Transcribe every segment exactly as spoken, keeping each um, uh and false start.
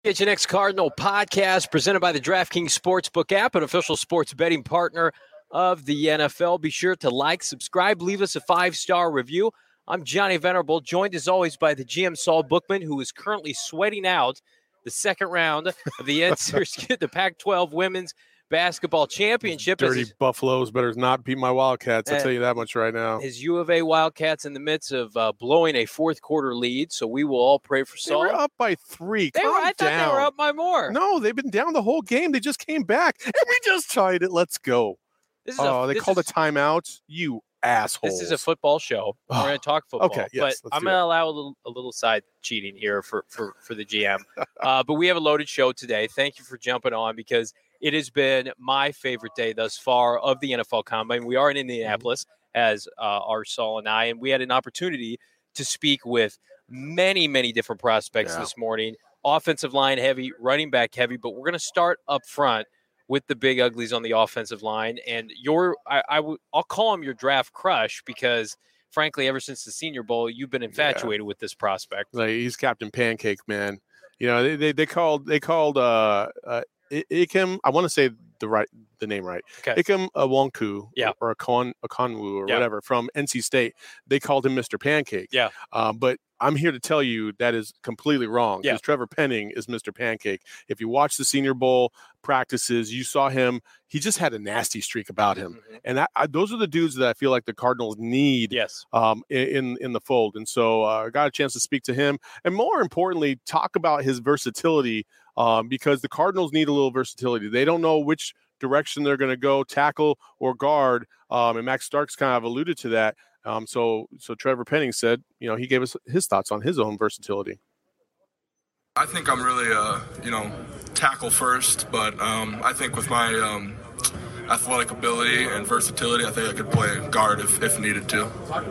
H N X Cardinal podcast presented by the DraftKings Sportsbook app, an official sports betting partner of the N F L. Be sure to like, subscribe, leave us a five-star review. I'm Johnny Venerable, joined as always by the G M Saul Bookman, who is currently sweating out the second round of the N C double A, the Pac twelve Women's Basketball Championship. Dirty his, Buffaloes better not beat my Wildcats. I'll uh, tell you that much right now. His U of A Wildcats in the midst of uh, blowing a fourth quarter lead, so we will all pray for Saul. They were up by three. They Calm were, I down. thought they were up by more. No, they've been down the whole game. They just came back, and we just tied it. Let's go. This is oh, a, they this called is, a timeout. You assholes. This is a football show. We're going to talk football. Okay, yes, but I'm going to allow a little, a little side cheating here for, for, for the G M. uh, but we have a loaded show today. Thank you for jumping on because it has been my favorite day thus far of the N F L Combine. We are in Indianapolis, as uh, are Saul and I, and we had an opportunity to speak with many, many different prospects yeah. this morning. Offensive line heavy, running back heavy, but we're going to start up front with the big uglies on the offensive line. And your, I, I w- I'll call him your draft crush because, frankly, ever since the Senior Bowl, you've been infatuated yeah. with this prospect. Like, he's Captain Pancake, man. You know, they they, they called they called uh, uh, Ikem. I want to say the right the name right. Okay. Ikem Awonku, yeah. or Akon Akonwu or yeah. whatever from N C State. They called him Mister Pancake. Yeah. Um, but I'm here to tell you that is completely wrong because yeah. Trevor Penning is Mister Pancake. If you watch the Senior Bowl practices, you saw him. He just had a nasty streak about him. Mm-hmm. And I, I, those are the dudes that I feel like the Cardinals need yes. um, in, in the fold. And so uh, I got a chance to speak to him and, more importantly, talk about his versatility um, because the Cardinals need a little versatility. They don't know which direction they're going to go, tackle or guard. Um, and Max Starks kind of alluded to that. Um, so, so Trevor Penning said, you know, he gave us his thoughts on his own versatility. I think I'm really, uh, you know, tackle first, but um, I think with my um, athletic ability and versatility, I think I could play guard if, if needed to.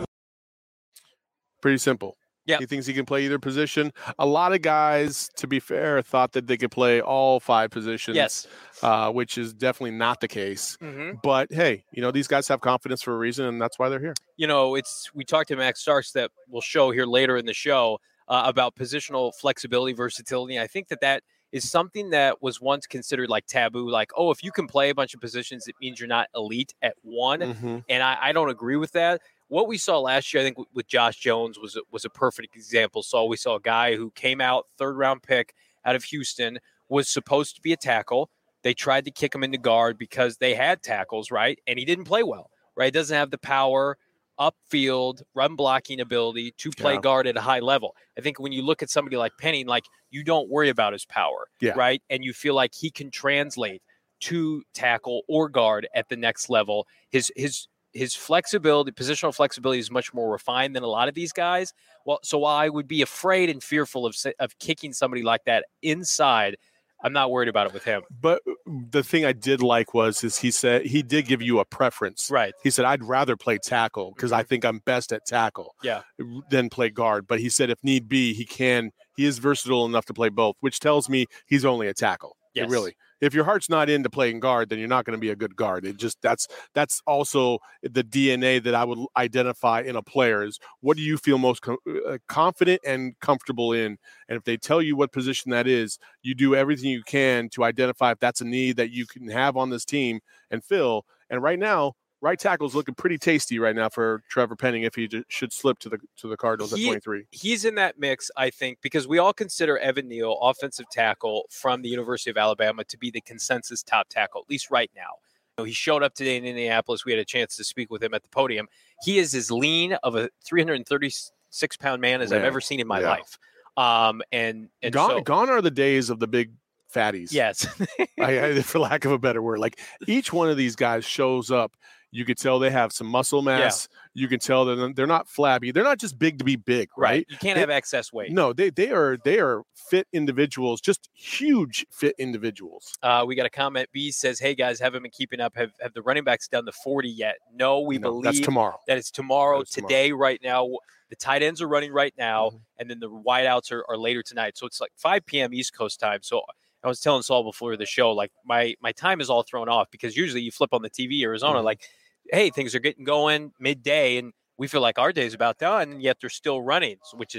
Pretty simple. Yeah, he thinks he can play either position. A lot of guys, to be fair, thought that they could play all five positions. Yes, uh, which is definitely not the case. Mm-hmm. But hey, you know, these guys have confidence for a reason, and that's why they're here. You know, it's we talked to Max Starks that we'll show here later in the show uh, about positional flexibility, versatility. I think that that is something that was once considered like taboo. Like, oh, if you can play a bunch of positions, it means you're not elite at one. Mm-hmm. And I, I don't agree with that. What we saw last year, I think, with Josh Jones was was a perfect example. So we saw a guy who came out, third round pick out of Houston, was supposed to be a tackle. They tried to kick him into guard because they had tackles, right? And he didn't play well, right? Doesn't have the power, upfield, run blocking ability to play yeah. guard at a high level. I think when you look at somebody like Penning, like you don't worry about his power, yeah. right? And you feel like he can translate to tackle or guard at the next level. His his his flexibility, positional flexibility is much more refined than a lot of these guys. Well, so while I would be afraid and fearful of of kicking somebody like that inside, I'm not worried about it with him. But the thing I did like was is he said he did give you a preference. Right. He said, I'd rather play tackle because mm-hmm. I think I'm best at tackle yeah. than play guard. But he said if need be, he can. He is versatile enough to play both, which tells me he's only a tackle. Yes. It really. If your heart's not into playing guard, then you're not going to be a good guard. It just that's that's also the D N A that I would identify in a player is what do you feel most com- confident and comfortable in? And if they tell you what position that is, you do everything you can to identify if that's a need that you can have on this team and fill. And right now, right tackle is looking pretty tasty right now for Trevor Penning if he j- should slip to the to the Cardinals he, at twenty-three. He's in that mix, I think, because we all consider Evan Neal, offensive tackle from the University of Alabama, to be the consensus top tackle, at least right now. You know, he showed up today in Indianapolis. We had a chance to speak with him at the podium. He is as lean of a three hundred thirty-six pound man as Man. I've ever seen in my yeah. life. Um, and and gone, so, gone are the days of the big fatties. Yes. I, I, for lack of a better word. Like each one of these guys shows up. You could tell they have some muscle mass. Yeah. You can tell that they're not flabby. They're not just big to be big, right? right. You can't they, have excess weight. No, they they are they are fit individuals, just huge fit individuals. Uh, we got a comment. B says, "Hey guys, haven't been keeping up. Have have the running backs done the forty yet?" No, we no, believe that's tomorrow. That it's tomorrow. That is Today, tomorrow. right now, the tight ends are running right now, Mm-hmm. and then the wideouts are, are later tonight. So it's like five p.m. East Coast time. So I was telling Saul before the show, like my my time is all thrown off because usually you flip on the T V Arizona, Mm-hmm. like, hey, things are getting going midday, and we feel like our day is about done, and yet they're still running, which is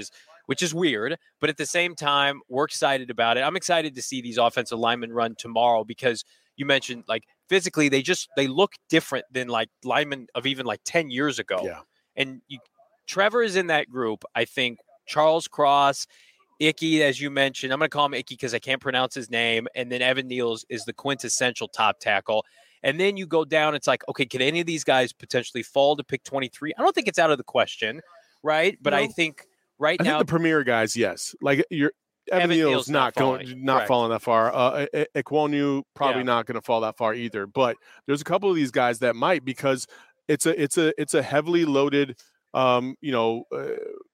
which is weird. But at the same time, we're excited about it. I'm excited to see these offensive linemen run tomorrow because you mentioned like physically they just they look different than like linemen of even like ten years ago. Yeah. And you, Trevor is in that group. I think Charles Cross, Icky, as you mentioned, I'm going to call him Icky because I can't pronounce his name. And then Evan Neal's is the quintessential top tackle. And then you go down, it's like, okay, can any of these guys potentially fall to pick twenty-three? I don't think it's out of the question, right? But no. I think right I now. think the premier guys, yes. Like you're Evan, Evan Neal's, Neal's not, not going, not Correct. falling that far. Uh, Ekwonu probably yeah. not going to fall that far either. But there's a couple of these guys that might because it's a it's a it's a heavily loaded, um, you know. Uh,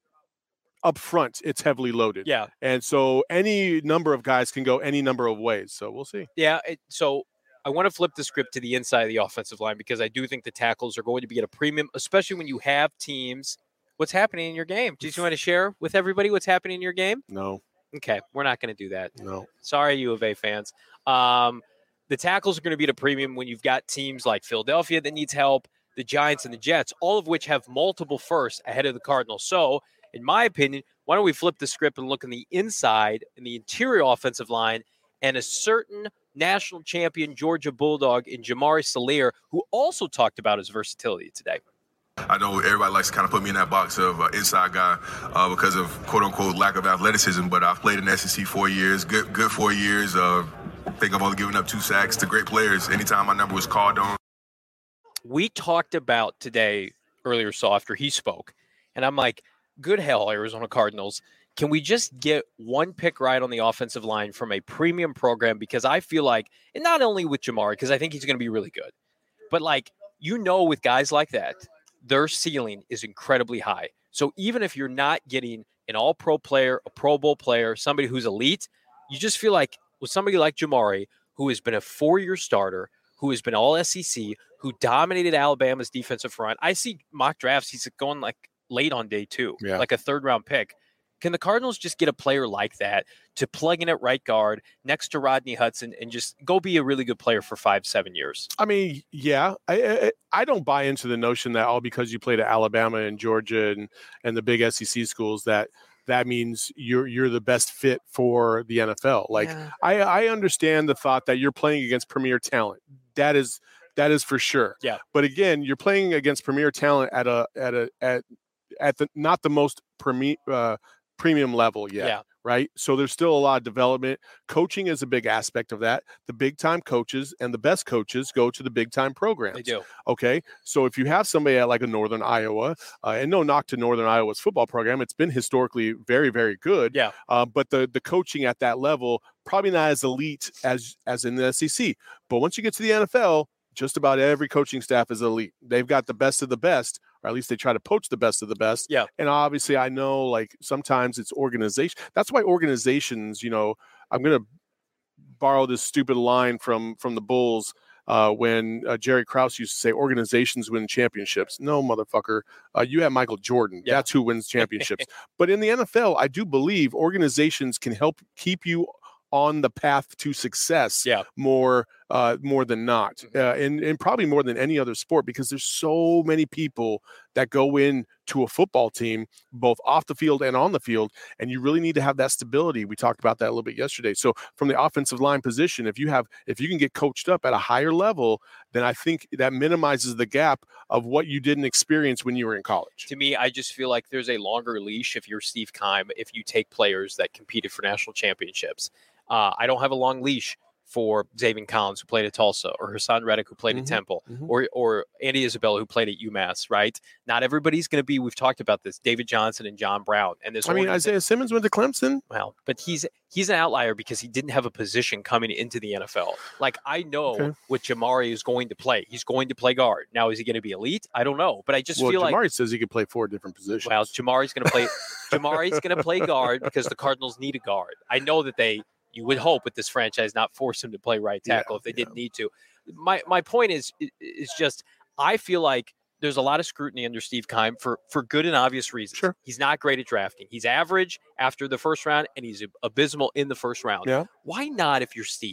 Up front, it's heavily loaded. Yeah. And so any number of guys can go any number of ways. So we'll see. Yeah. It, so I want to flip the script to the inside of the offensive line because I do think the tackles are going to be at a premium, especially when you have teams. What's happening in your game? Do you want to share with everybody what's happening in your game? No. Okay. We're not going to do that. No. Sorry, U of A fans. Um, the tackles are going to be at a premium when you've got teams like Philadelphia that needs help, the Giants and the Jets, all of which have multiple firsts ahead of the Cardinals. So, in my opinion, why don't we flip the script and look on the inside and the interior offensive line and a certain national champion Georgia Bulldog in Jamari Salyer, who also talked about his versatility today. I know everybody likes to kind of put me in that box of uh, inside guy uh, because of quote-unquote lack of athleticism, but I've played in the S E C four years, good good four years. Uh, I think I've only given up two sacks to great players anytime my number was called on. We talked about today earlier, so after he spoke, and I'm like, good hell, Arizona Cardinals. Can we just get one pick right on the offensive line from a premium program? Because I feel like, and not only with Jamari, because I think he's going to be really good, but like, you know, with guys like that, their ceiling is incredibly high. So even if you're not getting an all-pro player, a Pro Bowl player, somebody who's elite, you just feel like with somebody like Jamari, who has been a four-year starter, who has been all S E C, who dominated Alabama's defensive front. I see mock drafts, he's going like late on day two, yeah. like a third-round pick. Can the Cardinals just get a player like that to plug in at right guard next to Rodney Hudson and just go be a really good player for five, seven years? I mean, yeah. I I, I don't buy into the notion that all because you played at Alabama and Georgia and, and the big S E C schools that that means you're you're the best fit for the N F L. Like, yeah. I, I understand the thought that you're playing against premier talent. That is that is for sure. Yeah. But again, you're playing against premier talent at a at a at at the not the most premier uh, premium level yet, yeah. right? So there's still a lot of development. Coaching is a big aspect of that. The big time coaches and the best coaches go to the big time programs. They do. Okay. So if you have somebody at like a Northern Iowa, uh, and no knock to Northern Iowa's football program, it's been historically very, very good. Yeah. Uh, but the the coaching at that level, probably not as elite as as in the S E C. But once you get to the N F L, just about every coaching staff is elite. They've got the best of the best, or at least they try to poach the best of the best. Yeah. And obviously I know like sometimes it's organization. That's why organizations, you know, I'm going to borrow this stupid line from, from the Bulls uh, when uh, Jerry Krause used to say organizations win championships. No, motherfucker. Uh, you have Michael Jordan. Yeah. That's who wins championships. But in the N F L, I do believe organizations can help keep you on the path to success yeah. more uh, more than not, uh, and, and probably more than any other sport, because there's so many people that go in to a football team, both off the field and on the field, and you really need to have that stability. We talked about that a little bit yesterday. So from the offensive line position, if you have, if you can get coached up at a higher level, then I think that minimizes the gap of what you didn't experience when you were in college. To me, I just feel like there's a longer leash if you're Steve Keim, if you take players that competed for national championships. Uh, I don't have a long leash for Zaven Collins, who played at Tulsa, or Hassan Reddick, who played mm-hmm. at Temple, mm-hmm. or or Andy Isabella, who played at UMass, right? Not everybody's going to be, we've talked about this, David Johnson and John Brown. And this I mean, Isaiah Simmons went to Clemson. Well, but he's he's an outlier because he didn't have a position coming into the N F L. Like, I know okay. what Jamari is going to play. He's going to play guard. Now, is he going to be elite? I don't know. But I just well, feel Jamari like... Jamari says he can play four different positions. Well, Jamari's going to play Jamari's going to play guard because the Cardinals need a guard. I know that they... You would hope with this franchise not force him to play right tackle yeah, if they yeah. didn't need to. My my point is is just I feel like there's a lot of scrutiny under Steve Keim for for good and obvious reasons. Sure. He's not great at drafting. He's average after the first round, and he's abysmal in the first round. Yeah. Why not, if you're Steve,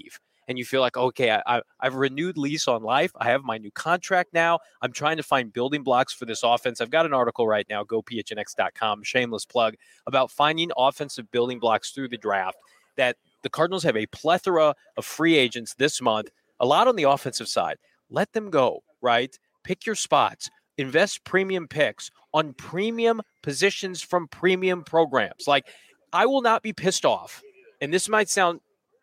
and you feel like, okay, I, I, I've renewed lease on life. I have my new contract now. I'm trying to find building blocks for this offense. I've got an article right now, go P H N X dot com, shameless plug, about finding offensive building blocks through the draft, that the Cardinals have a plethora of free agents this month, a lot on the offensive side. Let them go, right? Pick your spots. Invest premium picks on premium positions from premium programs. Like, I will not be pissed off, and this might sound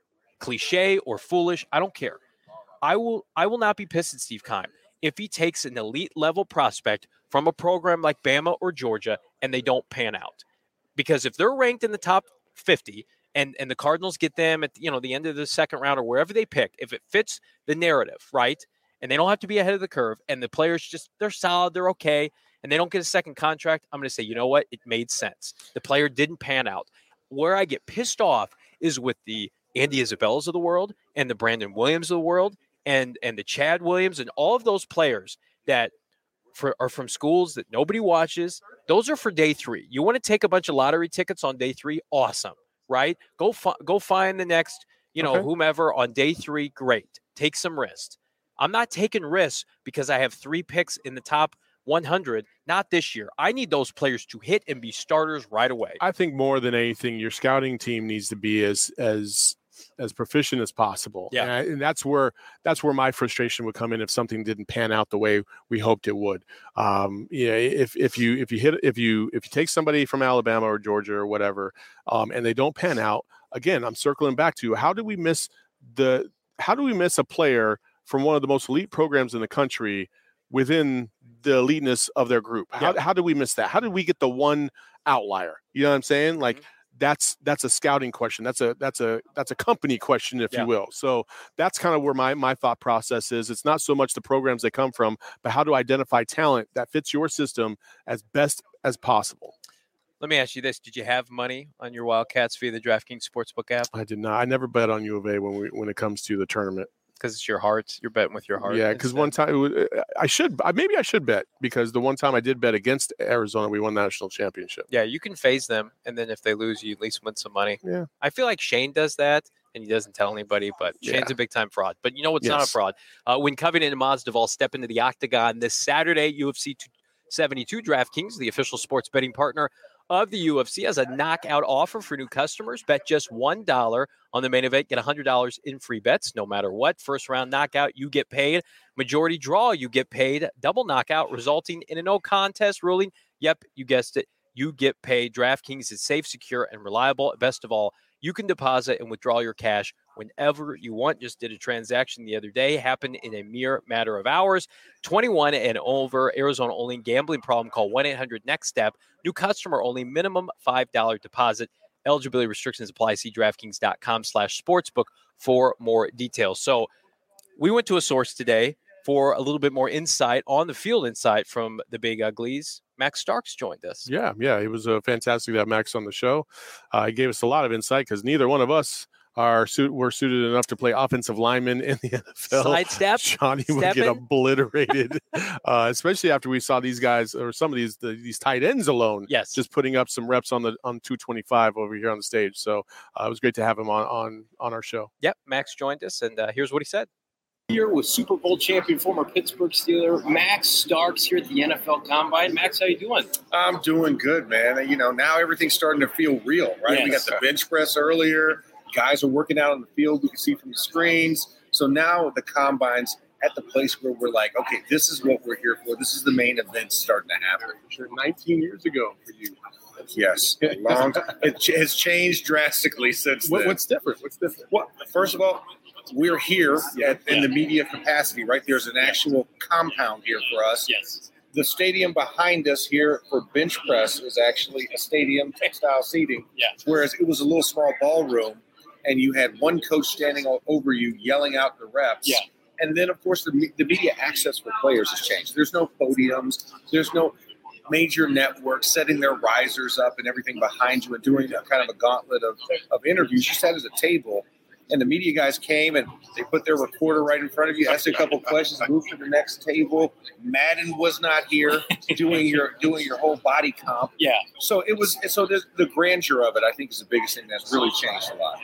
cliche or foolish. I don't care. I will I will not be pissed at Steve Keim if he takes an elite level prospect from a program like Bama or Georgia and they don't pan out. Because if they're ranked in the top fifty and, and the Cardinals get them at, you know, the end of the second round or wherever they pick, if it fits the narrative, right, and they don't have to be ahead of the curve, and the players just, they're solid, they're okay, and they don't get a second contract, I'm going to say, you know what? It made sense. The player didn't pan out. Where I get pissed off is with the Andy Isabellas of the world and the Brandon Williams of the world and, and the Chad Williams and all of those players that for, are from schools that nobody watches. Those are for day three. You want to take a bunch of lottery tickets on day three? Awesome, right? Go, fi- go find the next, you know, okay. whomever on day three. Great. Take some risks. I'm not taking risks because I have three picks in the top one hundred, not this year. I need those players to hit and be starters right away. I think more than anything, your scouting team needs to be as as as proficient as possible. Yeah. And, I, and that's where that's where my frustration would come in if something didn't pan out the way we hoped it would. Um, yeah, if if you if you hit if you if you take somebody from Alabama or Georgia or whatever, um, and they don't pan out, again, I'm circling back to how do we miss the how do we miss a player from one of the most elite programs in the country within the eliteness of their group? How, yeah. how do we miss that? How did we get the one outlier? You know what I'm saying? Like mm-hmm. that's, that's a scouting question. That's a, that's a, that's a company question, if yeah. you will. So that's kind of where my, my thought process is. It's not so much the programs they come from, but how to identify talent that fits your system as best as possible. Let me ask you this. Did you have money on your Wildcats via the DraftKings Sportsbook app? I did not. I never bet on U of A when we, when it comes to the tournament. Because it's your heart. You're betting with your heart. Yeah, because one time I should maybe I should bet because the one time I did bet against Arizona, we won the national championship. Yeah, you can phase them, and then if they lose, you at least win some money. Yeah, I feel like Shane does that, and he doesn't tell anybody. But Shane's yeah. a big time fraud. But you know what's yes. not a fraud? Uh, when Covington and Masvidal step into the octagon this Saturday, U F C two seventy-two DraftKings, the official sports betting partner of the U F C, has a knockout offer for new customers. Bet just one dollar on the main event. Get one hundred dollars in free bets no matter what. First round knockout, you get paid. Majority draw, you get paid. Double knockout, resulting in a no contest ruling. Yep, you guessed it. You get paid. DraftKings is safe, secure, and reliable. Best of all, you can deposit and withdraw your cash whenever you want. Just did a transaction the other day. Happened in a mere matter of hours. twenty-one and over. Arizona only. Gambling problem? Call one eight hundred next step. New customer only. Minimum five dollars deposit. Eligibility restrictions apply. See DraftKings.com slash sportsbook for more details. So we went to a source today for a little bit more insight on the field insight from the Big Uglies. Max Starks joined us. Yeah, yeah. It was uh, fantastic to have Max on the show. Uh, he gave us a lot of insight because neither one of us are suit were suited enough to play offensive linemen in the N F L. Sidestep. Johnny would Stepping. get obliterated, uh, especially after we saw these guys or some of these the, these tight ends alone. Yes, just putting up some reps on the on two twenty-five over here on the stage. So uh, it was great to have him on on on our show. Yep, Max joined us, and uh, here's what he said. Here with Super Bowl champion, former Pittsburgh Steeler, Max Starks here at the N F L Combine. Max, how you doing? I'm doing good, man. You know, now everything's starting to feel real, right? Yes. We got the bench press earlier. Guys are working out on the field. We can see from the screens. So now the Combine's at the place where we're like, okay, this is what we're here for. This is the main event starting to happen. Sure, nineteen years ago for you. Yes, a long time. It has changed drastically since what, then. What's different? What's different? Well, first of all, we're here at, in the media capacity, right? There's an actual compound here for us. Yes. The stadium behind us here for bench press is actually a stadium, textile seating. Yeah. Whereas it was a little small ballroom, and you had one coach standing all over you yelling out the reps. Yeah. And then, of course, the, the media access for players has changed. There's no podiums. There's no major networks setting their risers up and everything behind you and doing a kind of a gauntlet of, of interviews. You sat at a table, and the media guys came, and they put their recorder right in front of you, asked a couple questions, moved to the next table. Madden was not here doing your doing your whole body comp. Yeah. So it was. So the, the grandeur of it, I think, is the biggest thing that's really changed a lot. So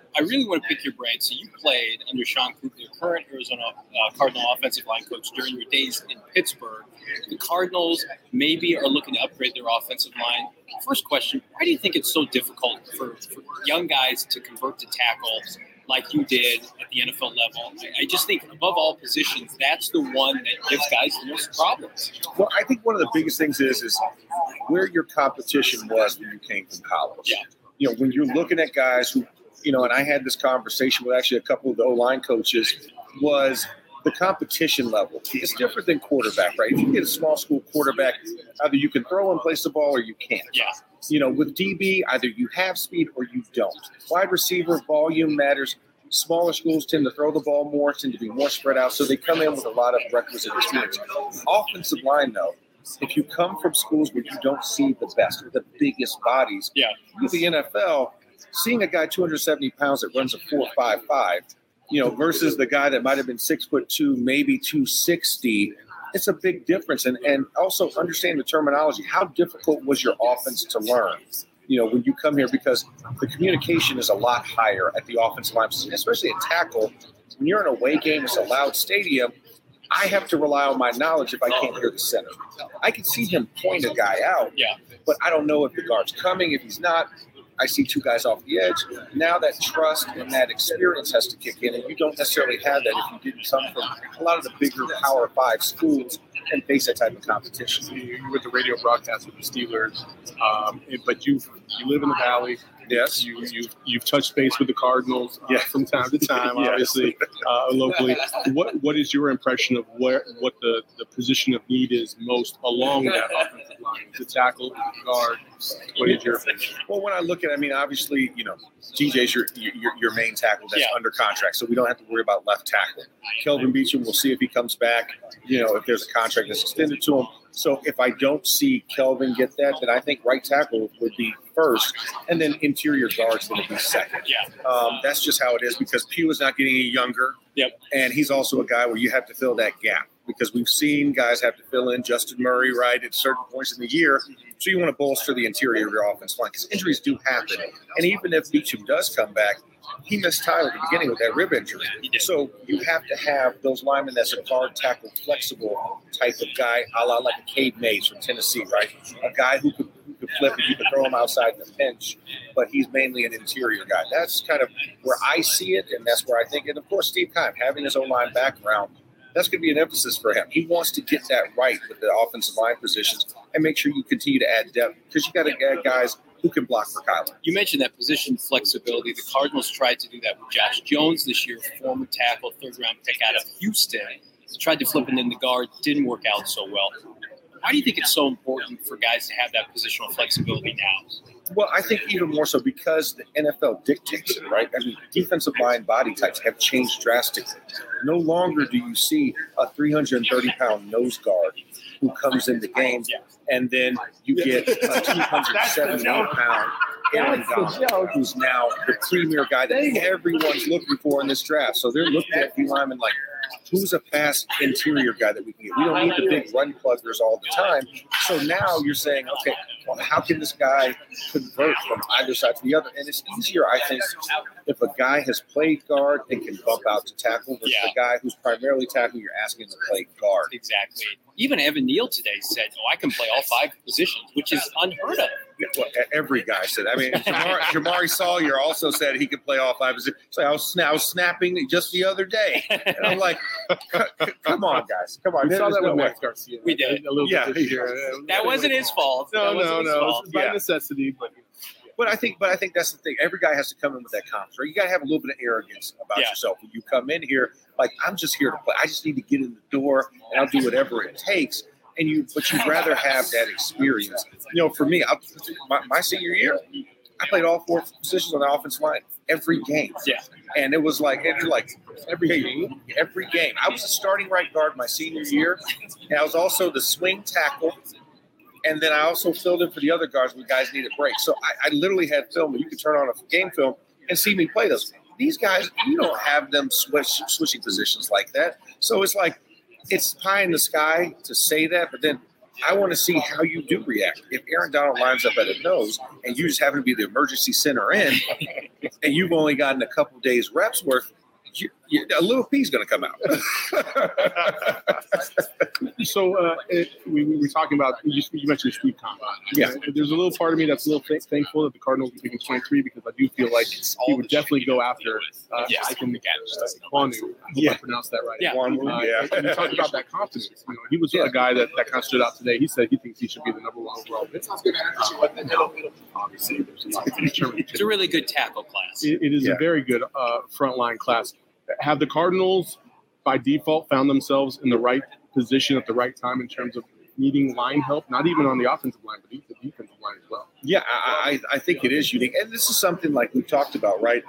I really want to pick your brain. So you played under Sean Cooper, the current Arizona uh, Cardinal offensive line coach, during your days in Pittsburgh. The Cardinals maybe are looking to upgrade their offensive line. First question, why do you think it's so difficult for, for young guys to convert to tackle like you did at the N F L level? I just think above all positions, that's the one that gives guys the most problems. Well, I think one of the biggest things is is where your competition was when you came from college. Yeah. You know, when you're looking at guys who, you know, and I had this conversation with actually a couple of the O-line coaches, was the competition level. It's different than quarterback, right? If you get a small school quarterback, either you can throw and place the ball or you can't. Yeah. You know, with D B, either you have speed or you don't. Wide receiver, volume matters. Smaller schools tend to throw the ball more, tend to be more spread out, so they come in with a lot of requisite experience. Offensive line, though, if you come from schools where you don't see the best or the biggest bodies, yeah. with the N F L, seeing a guy two hundred seventy pounds that runs a four five five, you know, versus the guy that might have been six foot two, maybe two sixty, it's a big difference. And and also understand the terminology. How difficult was your offense to learn? You know, when you come here, because the communication is a lot higher at the offensive line position, especially at tackle. When you're in a away game, it's a loud stadium. I have to rely on my knowledge if I can't hear the center. I can see him point a guy out, yeah. but I don't know if the guard's coming, if he's not. I see two guys off the edge. Now that trust and that experience has to kick in, and you don't necessarily have that if you didn't come from a lot of the bigger Power Five schools and face that type of competition. You were with the radio broadcast with the Steelers, um, but you you live in the Valley. Yes. You, you've, you've touched base with the Cardinals uh, yeah. from time to time, yes. obviously, uh, locally. What What is your impression of where what the, the position of need is most along that offensive line? Is it tackle, guard? What is your opinion? Well, when I look at it, I mean, obviously, you know, T J's your your, your main tackle that's yeah. under contract, so we don't have to worry about left tackle. Kelvin Beachum, we'll see if he comes back, you know, if there's a contract that's extended to him. So if I don't see Kelvin get that, then I think right tackle would be first, and then interior guard's going to be second. Yeah. Um, that's just how it is because Pugh is not getting any younger. Yep. And he's also a guy where you have to fill that gap because we've seen guys have to fill in Justin Murray, right, at certain points in the year. So you want to bolster the interior of your offense line because injuries do happen. And even if Beachum does come back, he missed time at the beginning with that rib injury. So you have to have those linemen that's a guard tackle flexible type of guy, a la like a Cade Mays from Tennessee, right? A guy who could, who could flip and you could throw him outside in the pinch, but he's mainly an interior guy. That's kind of where I see it, and that's where I think. And of course, Steve Keim, having his O-line background, that's going to be an emphasis for him. He wants to get that right with the offensive line positions and make sure you continue to add depth because you got to add guys who can block for Kyler. You mentioned that position flexibility. The Cardinals tried to do that with Josh Jones this year, former tackle, third-round pick out of Houston. Tried to flip it in the guard, didn't work out so well. Why do you think it's so important for guys to have that positional flexibility now? Well, I think even more so because the N F L dictates it, right? I mean, defensive line body types have changed drastically. No longer do you see a three hundred thirty pound nose guard who comes in the game, and then you get a two hundred seventy-eight pound Aaron Donald, who's now the premier guy that everyone's looking for in this draft. So they're looking at D linemen like, who's a fast interior guy that we can get? We don't need the big run pluggers all the time. So now you're saying, okay, well, how can this guy convert from either side to the other? And it's easier, I think, if a guy has played guard and can bump out to tackle versus Yeah. a guy who's primarily tackle, you're asking him to play guard. Exactly. Even Evan Neal today said, oh, I can play all five positions, which is unheard of. Yeah, well, e- every guy said. I mean, Jamari, Jamari Sawyer also said he could play all five positions. So I was, I was snapping just the other day, and I'm like, "Come on, guys, come on." We saw There's that no with way. Max Garcia. We did. A little Yeah. bit this year. That wasn't his fault. No, That wasn't no, his no. fault. It's by Yeah. necessity, but But I think, but I think that's the thing. Every guy has to come in with that confidence. Right? You got to have a little bit of arrogance about Yeah. yourself when you come in here. Like, I'm just here to play. I just need to get in the door, and I'll do whatever it takes. And you, but you'd rather have that experience. You know, for me, I, my, my senior year, I played all four positions on the offensive line every game. Yeah. And it was like, it was like every game, every game. I was a starting right guard my senior year, and I was also the swing tackle. And then I also filled in for the other guards when guys needed breaks. So I, I literally had film, and you could turn on a game film and see me play those. These guys, you don't have them switch, switching positions like that. So it's like, it's pie in the sky to say that, but then I want to see how you do react. If Aaron Donald lines up at a nose and you just happen to be the emergency center in, and you've only gotten a couple days reps worth, you, you, a little P's going to come out. So uh, it, we, we were talking about, you, you mentioned Steve Conn. Yeah. There's a little part of me that's a little th- thankful that the Cardinals are picking twenty-three, because I do feel like he would definitely go after uh, Yes. I can, uh, Kwanu. I hope Yeah. I pronounced that right. Yeah. Kwanu, Uh, yeah. and you talked about that confidence. You know, he was Yeah. a guy that, that kind of stood out today. He said he thinks he should be the number one overall pick. Obviously, there's a lot to determine. It's a really good tackle class. It, it is Yeah. a very good uh, frontline class. Have the Cardinals, by default, found themselves in the right position at the right time in terms of needing line help, not even on the offensive line, but the defensive line as well? Yeah, I, I I think it is unique. And this is something like we talked about, right?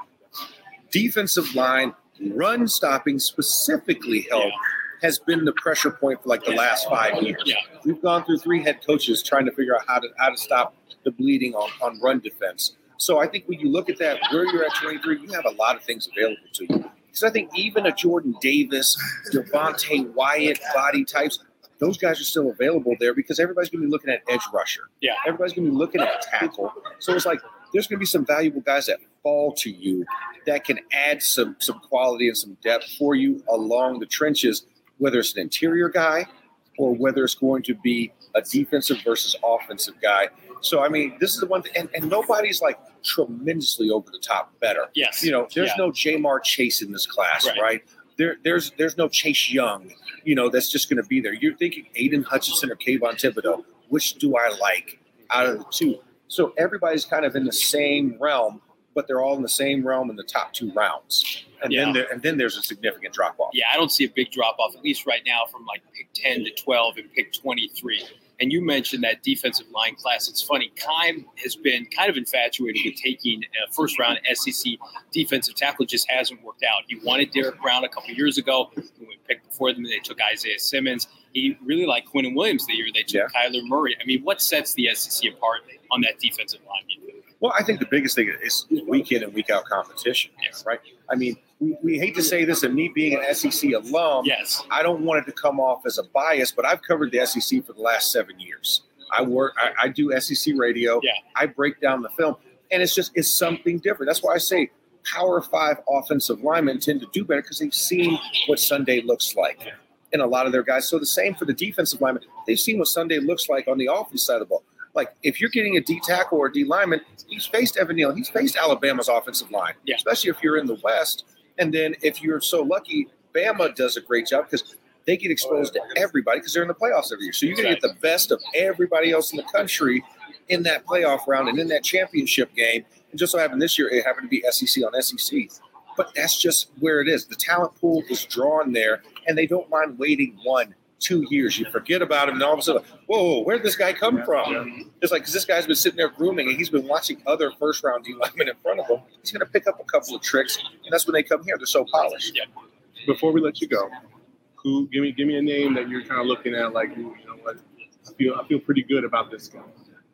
Defensive line, run stopping specifically help Yeah. has been the pressure point for like the last five years. Yeah. We've gone through three head coaches trying to figure out how to how to stop the bleeding on, on run defense. So I think when you look at that, where you're at twenty-three, you have a lot of things available to you. Because I think even a Jordan Davis, Devontae Wyatt body types, those guys are still available there because everybody's going to be looking at edge rusher. Yeah. Everybody's going to be looking at tackle. So it's like there's going to be some valuable guys that fall to you that can add some some quality and some depth for you along the trenches, whether it's an interior guy or whether it's going to be a defensive versus offensive guy. So, I mean, this is the one thing, and, and nobody's like tremendously over the top better. Yes. You know, there's Yeah. no Jamar Chase in this class, Right. right? There, there's there's no Chase Young, you know, that's just going to be there. You're thinking Aiden Hutchinson or Kayvon Thibodeau. Which do I like out of the two? So everybody's kind of in the same realm, but they're all in the same realm in the top two rounds. And Yeah. then there, and then there's a significant drop off. Yeah, I don't see a big drop off, at least right now, from like pick ten to twelve and pick twenty-three. And you mentioned that defensive line class. It's funny, Keim has been kind of infatuated with taking a first round S E C defensive tackle. It just hasn't worked out. He wanted Derek Brown a couple of years ago. When we picked before them, they took Isaiah Simmons. He really liked Quinnen Williams the year they took Yeah. Kyler Murray. I mean, what sets the S E C apart on that defensive line? do you think? Well, I think the biggest thing is week in and week out competition, Yes. right? I mean, we, we hate to say this, and me being an S E C alum, Yes. I don't want it to come off as a bias, but I've covered the S E C for the last seven years. I work, I, I do S E C radio. Yeah. I break down the film, and it's just it's something different. That's why I say Power Five offensive linemen tend to do better because they've seen what Sunday looks like in a lot of their guys. So the same for the defensive linemen. They've seen what Sunday looks like on the offense side of the ball. Like if you're getting a D tackle or a D lineman, he's faced Evan Neal. He's faced Alabama's offensive line, Yeah. especially if you're in the West. And then if you're so lucky, Bama does a great job because they get exposed to everybody because they're in the playoffs every year. So you're going to get the best of everybody else in the country in that playoff round and in that championship game. And just so happened this year, it happened to be S E C on S E C. But that's just where it is. The talent pool is drawn there, and they don't mind waiting one, two years. You forget about him, and all of a sudden, whoa, where did this guy come from? It's like, because this guy's been sitting there grooming, and he's been watching other first-round D linemen in front of him. He's going to pick up a couple of tricks, and that's when they come here. They're so polished. Before we let you go, who give me give me a name that you're kind of looking at, like, ooh, you know what, I feel I feel pretty good about this guy.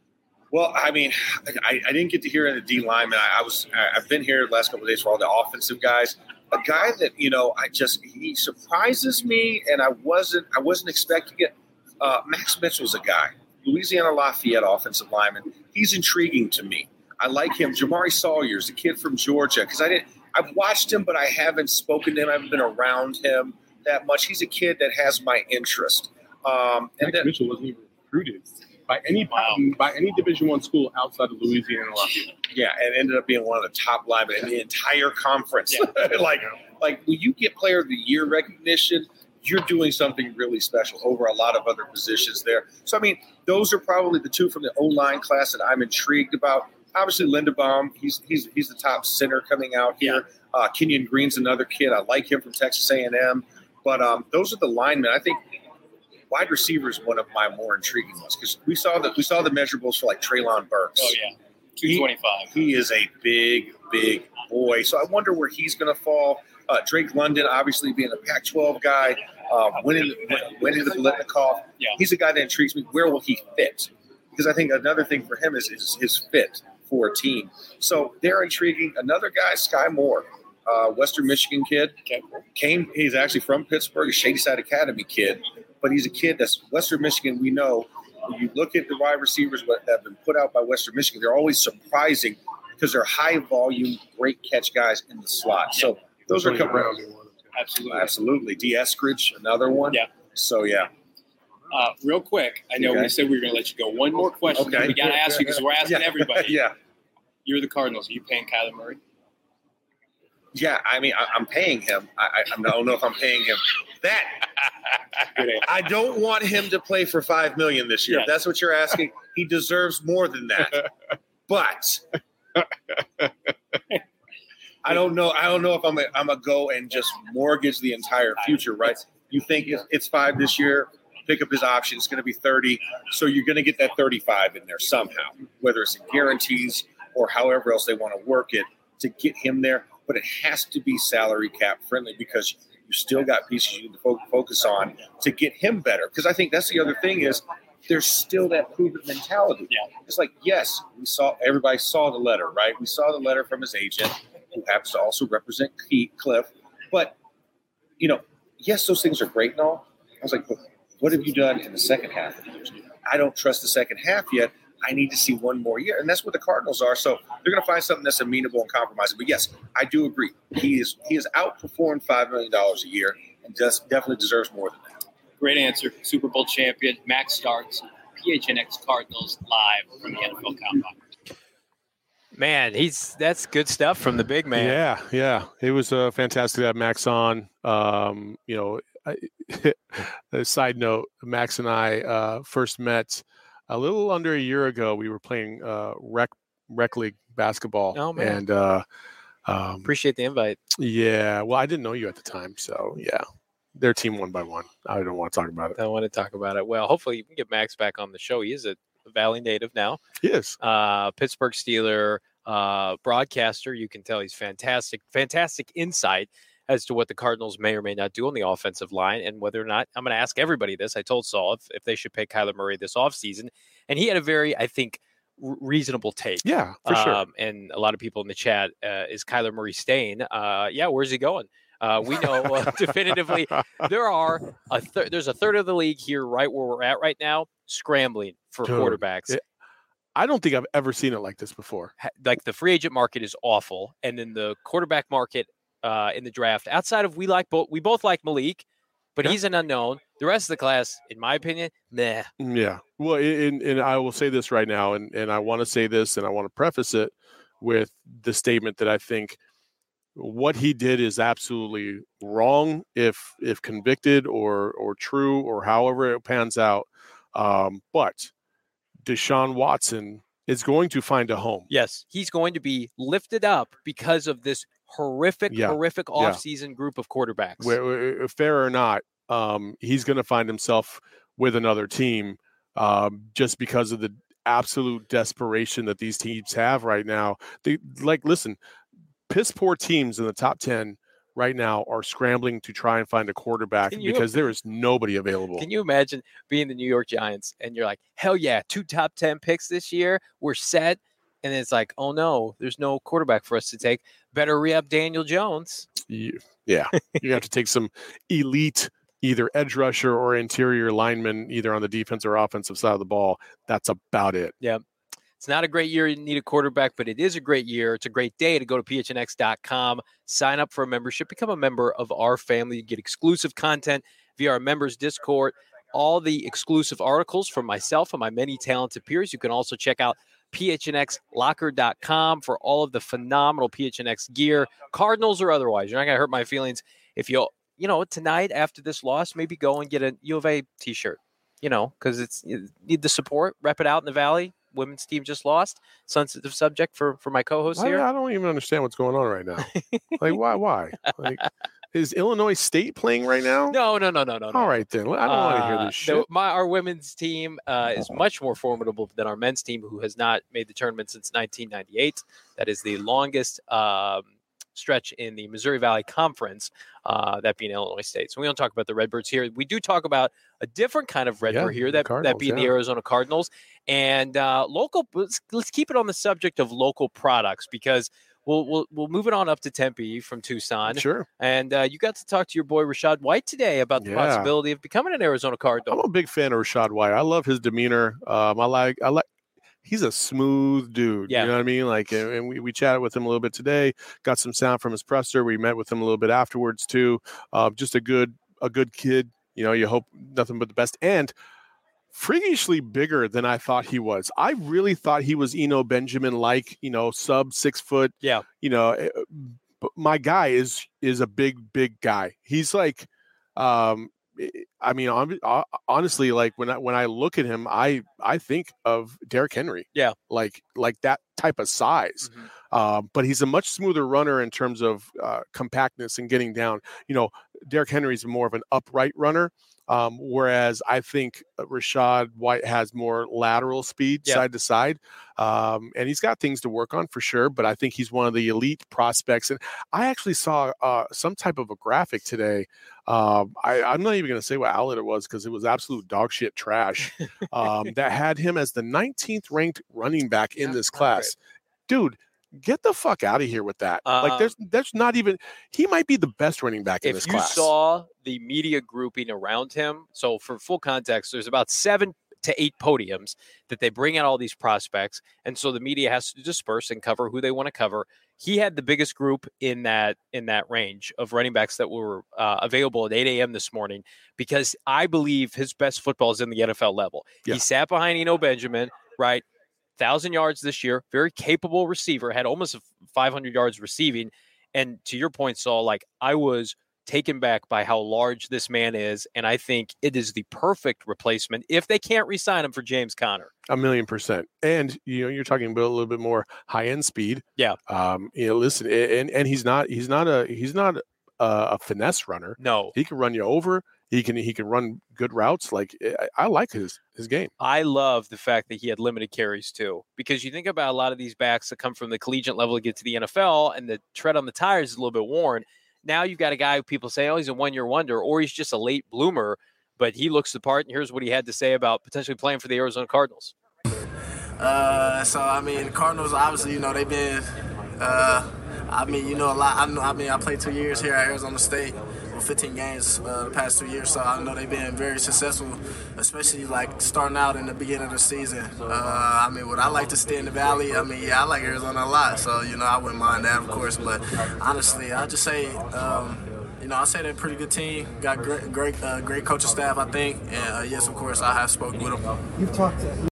Well, I mean, I, I didn't get to hear in the D lineman. I, I was I've been here the last couple of days for all the offensive guys. A guy that you know, I just he surprises me, and I wasn't I wasn't expecting it. Uh, Max Mitchell's a guy, Louisiana Lafayette offensive lineman. He's intriguing to me. I like him. Jamari Sawyer's a kid from Georgia because I didn't. I've watched him, but I haven't spoken to him. I haven't been around him that much. He's a kid that has my interest. Um, and Max then, Mitchell wasn't even recruited by any Wow. by any Division One school outside of Louisiana Lafayette. yeah, and ended up being one of the top linemen in the entire conference. like, like when you get Player of the Year recognition, you're doing something really special over a lot of other positions there. So, I mean, those are probably the two from the O-line class that I'm intrigued about. Obviously, Linderbaum, he's he's he's the top center coming out here. Uh, Kenyon Green's another kid. I like him from Texas A and M. But um, those are the linemen. I think wide receiver is one of my more intriguing ones because we saw the we saw the measurables for like Traylon Burks. Oh, yeah. two twenty-five. He is a big, big boy. So I wonder where he's going to fall. Uh, Drake London, obviously being a Pac twelve guy, um, winning, winning the Biletnikoff. Yeah. He's a guy that intrigues me. Where will he fit? Because I think another thing for him is, is his fit for a team. So they're intriguing. Another guy, Sky Moore, uh, Western Michigan kid. Okay. Came. He's actually from Pittsburgh, a Shady Side Academy kid. But he's a kid that's Western Michigan. We know when you look at the wide receivers that have been put out by Western Michigan, they're always surprising because they're high volume, great catch guys in the slot. So those are coming around. Absolutely. Absolutely. D. Eskridge, another one. Yeah. So, yeah. Uh, real quick, I know Okay. we said we were going to let you go. One more question. Okay. We got to ask you because we're asking Yeah. everybody. yeah. You're the Cardinals. Are you paying Kyler Murray? Yeah, I mean, I, I'm paying him. I, I, I don't know if I'm paying him that. Good answer. I don't want him to play for five million dollars this year. Yes. If that's what you're asking. He deserves more than that. But I don't know. I don't know if I'm a, I'm a go and just mortgage the entire future, right? You think it's, it's five this year, pick up his option. It's going to be thirty. So you're going to get that thirty-five in there somehow, whether it's in guarantees or however else they want to work it to get him there. But it has to be salary cap friendly because you still got pieces you need to fo- focus on to get him better. Because I think that's the other thing is there's still that proven mentality. Yeah. It's like, yes, we saw everybody saw the letter, right? We saw the letter from his agent, who happens to also represent Keith Cliff. But, you know, yes, those things are great and all. I was like, but what have you done in the second half of the year? I don't trust the second half yet. I need to see one more year. And that's what the Cardinals are. So they're going to find something that's amenable and compromising. But, yes, I do agree. He is he has outperformed five million dollars a year and just definitely deserves more than that. Great answer. Super Bowl champion, Max Starks, P H N X Cardinals live from the N F L Combine. Man, he's that's good stuff from the big man. Yeah, yeah. It was uh, fantastic to have Max on. Um, you know, I, a side note, Max and I uh, first met a little under a year ago. We were playing uh, rec rec league basketball. Oh, man. And uh, um, Appreciate the invite. yeah, well, I didn't know you at the time, so yeah, their team one by one. I don't want to talk about it. I want to talk about it. Well, hopefully you can get Max back on the show. He is a Valley native now. Yes. Uh, Pittsburgh Steeler uh, broadcaster. You can tell he's fantastic, fantastic insight as to what the Cardinals may or may not do on the offensive line and whether or not, I'm going to ask everybody this. I told Saul if, if they should pay Kyler Murray this offseason. And he had a very, I think, r- reasonable take. Yeah, for sure. Um, and a lot of people in the chat, uh, is Kyler Murray staying? Uh, yeah, where's he going? Uh, we know uh, definitively there are a th- there's a third of the league here right where we're at right now scrambling for Dude, quarterbacks. it- I don't think I've ever seen it like this before. Ha- Like the free agent market is awful, and then the quarterback market uh, in the draft. Outside of we like both, we both like Malik, but Yeah. he's an unknown. The rest of the class, in my opinion, meh. Yeah. Well, and, and I will say this right now, and, and I want to say this, and I want to preface it with the statement that I think what he did is absolutely wrong if if convicted or or true or however it pans out. Um, but Deshaun Watson is going to find a home. Yes, he's going to be lifted up because of this horrific, Yeah. horrific Yeah. offseason group of quarterbacks. Where, where- fair or not, um, he's going to find himself with another team um, just because of the absolute desperation that these teams have right now. They like, listen, piss poor teams in the top ten right now are scrambling to try and find a quarterback Can you- because there is nobody available. Can you imagine being the New York Giants and you're like, hell yeah, two top ten picks this year, we're set. And it's like, oh no, there's no quarterback for us to take. Better re-up Daniel Jones. You- yeah, you have to take some elite either edge rusher or interior lineman, either on the defensive or offensive side of the ball. That's about it. It's not a great year. You need a quarterback, but it is a great year. It's a great day to go to P H N X dot com, sign up for a membership, become a member of our family. You get exclusive content via our members Discord, all the exclusive articles from myself and my many talented peers. You can also check out P H N X locker dot com for all of the phenomenal P H N X gear, Cardinals or otherwise. You're not going to hurt my feelings if you'll, you know, tonight after this loss, maybe go and get a U of A t-shirt, you know, because it's you need the support, rep it out in the Valley. Women's team just lost. Sensitive subject for, for my co-host I, here. I don't even understand what's going on right now. Like, why? Why? Like, is Illinois State playing right now? No, no, no, no, no. no. All right, then. I don't want to hear Uh, this the- shit. my our women's team uh, is much more formidable than our men's team, who has not made the tournament since nineteen ninety-eight. That is the longest um, stretch in the Missouri Valley Conference, uh, that being Illinois State. So we don't talk about the Redbirds here. We do talk about a different kind of Redbird Yeah, here, the that that Cardinals, being the yeah. Arizona Cardinals. And uh, local, let's, let's keep it on the subject of local products, because we'll we'll we'll move it on up to Tempe from Tucson. Sure. And uh, you got to talk to your boy Rachaad White today about the Yeah. possibility of becoming an Arizona Cardinal. I'm a big fan of Rachaad White. I love his demeanor. Um, I like I like. He's a smooth dude. Yeah. You know what I mean? Like, and we, we chatted with him a little bit today. Got some sound from his presser. We met with him a little bit afterwards too. Uh, just a good a good kid. You know, you hope nothing but the best. And freakishly bigger than I thought he was. I really thought he was Eno Benjamin, like, you know, sub six foot. Yeah. You know, but my guy is is a big, big guy. He's like, um, I mean, honestly, like when I when I look at him, I I think of Derrick Henry. Yeah. Like like that type of size. Mhm. Uh, but he's a much smoother runner in terms of uh, compactness and getting down. You know, Derrick Henry's more of an upright runner. Um, whereas I think Rachaad White has more lateral speed, Yeah. side to side. Um, and he's got things to work on for sure, but I think he's one of the elite prospects. And I actually saw uh, some type of a graphic today. Um, I, I'm not even going to say what outlet it was because it was absolute dog shit trash um, that had him as the nineteenth ranked running back in Yeah, this not class. Dude, get the fuck out of here with that. Um, like there's there's not even he might be the best running back in If this you class. saw the media grouping around him, so for full context, there's about seven to eight podiums that they bring out all these prospects, and so the media has to disperse and cover who they want to cover. He had the biggest group in that in that range of running backs that were uh, available at eight a.m. this morning, because I believe his best football is in the N F L level. Yeah. He sat behind Eno Benjamin, right? Thousand yards this year, very capable receiver, had almost five hundred yards receiving. And to your point, Saul, like I was taken back by how large this man is, and I think it is the perfect replacement if they can't re-sign him for James Conner. A million percent. And, you know, you're talking about a little bit more high end speed. Yeah. Um, you know, listen, and, and he's not, he's not a, he's not a, a finesse runner. No, He can run you over. He can, he can run good routes. Like I, I like his, his game. I love the fact that he had limited carries too, because you think about a lot of these backs that come from the collegiate level to get to the N F L and the tread on the tires is a little bit worn. Now you've got a guy who people say, oh, he's a one-year wonder, or he's just a late bloomer, but he looks the part. And here's what he had to say about potentially playing for the Arizona Cardinals. Uh, so I mean, Cardinals obviously, you know, they've been. Uh, I mean, you know, a lot. I know. I mean, I played two years here at Arizona State, with fifteen games uh, the past two years. So I know they've been very successful, especially like starting out in the beginning of the season. Uh, I mean, would I like to stay in the Valley? I mean, yeah, I like Arizona a lot. So you know, I wouldn't mind that, of course. But honestly, I just say. Um, You know, I say they're a pretty good team. Got great, great, uh, great coaching staff, I think. And uh, yes, of course, I have spoken with them. You've talked to.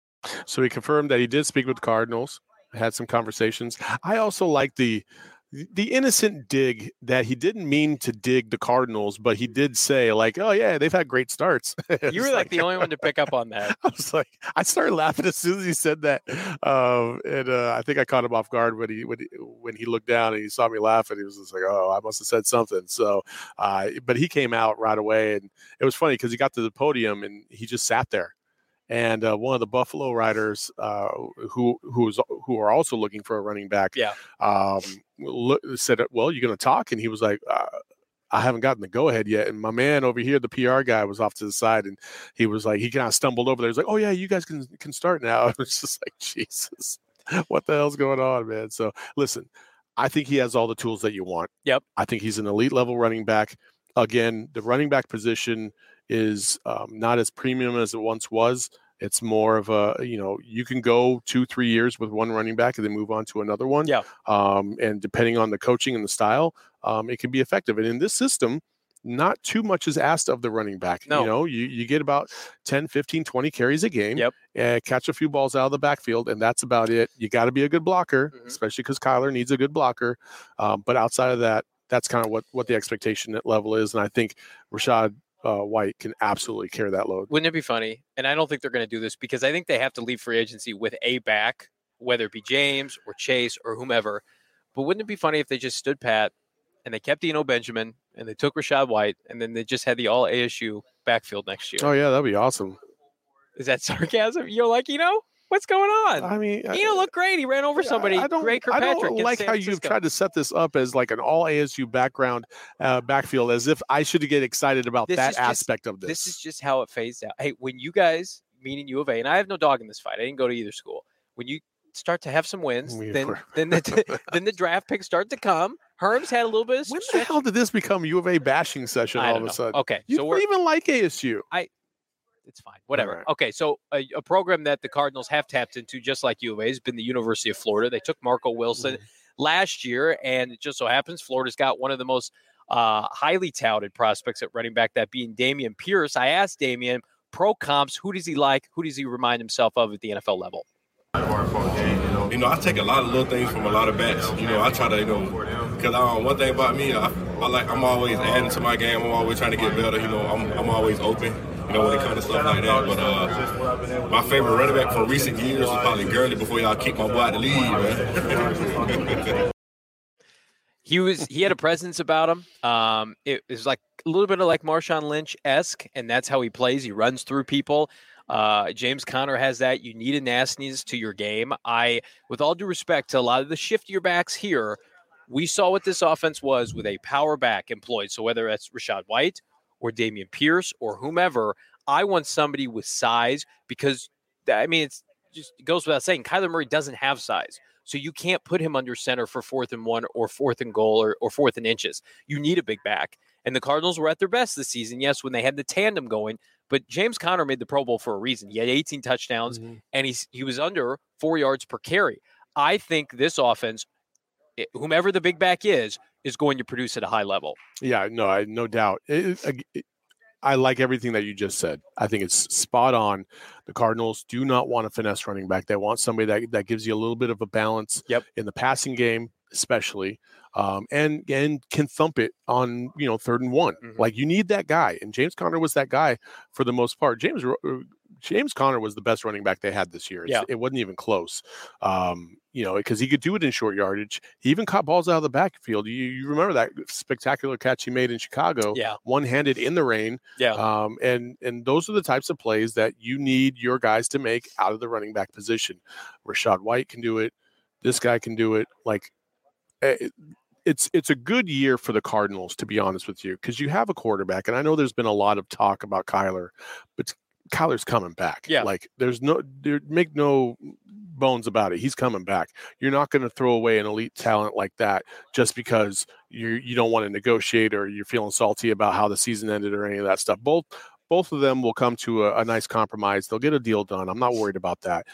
So he confirmed that he did speak with the Cardinals, had some conversations. I also like the the innocent dig that he didn't mean to dig the Cardinals, but he did say like, "Oh yeah, they've had great starts." You were like the only one to pick up on that. I was like, I started laughing as soon as he said that, um, and uh, I think I caught him off guard when he when he, when he looked down and he saw me laughing. He was just like, "Oh, I must have said something." So, uh, but he came out right away, and it was funny because he got to the podium and he just sat there. And uh, one of the Buffalo riders uh, who who was who are also looking for a running back, Yeah. um, look, said, "Well, you're going to talk?" And he was like, uh, "I haven't gotten the go ahead yet." And my man over here, the P R guy, was off to the side, and he was like, he kind of stumbled over there. He's like, "Oh yeah, you guys can can start now." I was just like, Jesus, what the hell's going on, man? So listen, I think he has all the tools that you want. Yep. I think he's an elite level running back. Again, the running back position is um, not as premium as it once was. It's more of a, you know, you can go two, three years with one running back and then move on to another one. Yeah. Um, and depending on the coaching and the style, um, it can be effective. And in this system, not too much is asked of the running back. No. You know, you, you get about ten, fifteen, twenty carries a game. Yep. Uh, catch a few balls out of the backfield, and that's about it. You got to be a good blocker, Mhm. especially because Kyler needs a good blocker. Um, but outside of that, that's kind of what, what the expectation level is. And I think Rachaad uh, White can absolutely carry that load. Wouldn't it be funny? And I don't think they're going to do this because I think they have to leave free agency with a back, whether it be James or Chase or whomever. But wouldn't it be funny if they just stood pat and they kept Eno Benjamin and they took Rachaad White and then they just had the all A S U backfield next year? Oh, yeah, that'd be awesome. Is that sarcasm? You're like, Eno? What's going on? I mean, Eno looked great. He ran over somebody. I don't, Great I Kirkpatrick. don't against like San how you've Francisco. tried to set this up as like an all A S U background uh, backfield, as if I should get excited about This that is just- aspect of this. This is just how it phased out. Hey, when you guys, meaning U of A, and I have no dog in this fight. I didn't go to either school. When you start to have some wins. We then were- then the then the draft picks start to come. Herm's had a little bit of When the stretch. hell did this become U of A bashing session I all don't of a know. sudden? Okay, You so don't we're even like A S U. it's fine. Whatever. right. Okay, so a, a program that the Cardinals have tapped into, just like U of A, has been the University of Florida. They took Marco Wilson Mhm. last year, and it just so happens Florida's got one of the most uh, highly touted prospects at running back, that being Damian Pierce. I asked Damian, pro comps, who does he like? Who does he remind himself of at the N F L level? You know, I take a lot of little things from a lot of bats. You know, I try to, you know, because um, one thing about me, I, I like, I'm always adding to my game. I'm always trying to get better. You know, I'm, I'm always open. You know, when it comes to stuff like that. But uh, my favorite running back from recent years was probably Gurley before y'all kicked my boy out the league, man. He was he had a presence about him. Um, it was like a little bit of like Marshawn Lynch-esque, and that's how he plays. He runs through people. Uh, James Conner has that. You need a nastiness to your game. I, with all due respect to a lot of the shiftier backs here, we saw what this offense was with a power back employed. So whether that's Rachaad White or Damian Pierce or whomever, I want somebody with size, because, I mean, it's just it goes without saying, Kyler Murray doesn't have size. So you can't put him under center for fourth and one or fourth and goal or, or fourth and inches. You need a big back. And the Cardinals were at their best this season, yes, when they had the tandem going. But James Conner made the Pro Bowl for a reason. He had eighteen touchdowns, Mm-hmm. and he's, he was under four yards per carry. I think this offense, it- whomever the big back is, is going to produce at a high level. Yeah, no, I no doubt. It, it, it- I like everything that you just said. I think it's spot on. The Cardinals do not want a finesse running back. They want somebody that, that gives you a little bit of a balance Yep. in the passing game, especially, um, and and can thump it on, you know, third and one. Mhm. Like, you need that guy, and James Conner was that guy for the most part. James James Conner was the best running back they had this year. It's, Yeah. It wasn't even close. Um, you know, because he could do it in short yardage. He even caught balls out of the backfield. You, you remember that spectacular catch he made in Chicago, Yeah. one-handed in the rain. Yeah. Um, and and those are the types of plays that you need your guys to make out of the running back position. Rachaad White can do it. This guy can do it. Like, it, it's it's a good year for the Cardinals, to be honest with you, because you have a quarterback, and I know there's been a lot of talk about Kyler, but Kyler's coming back. Yeah. Like, there's no there make no bones about it. He's coming back. You're not going to throw away an elite talent like that just because you you don't want to negotiate or you're feeling salty about how the season ended or any of that stuff. Both both of them will come to a, a nice compromise. They'll get a deal done. I'm not worried about that.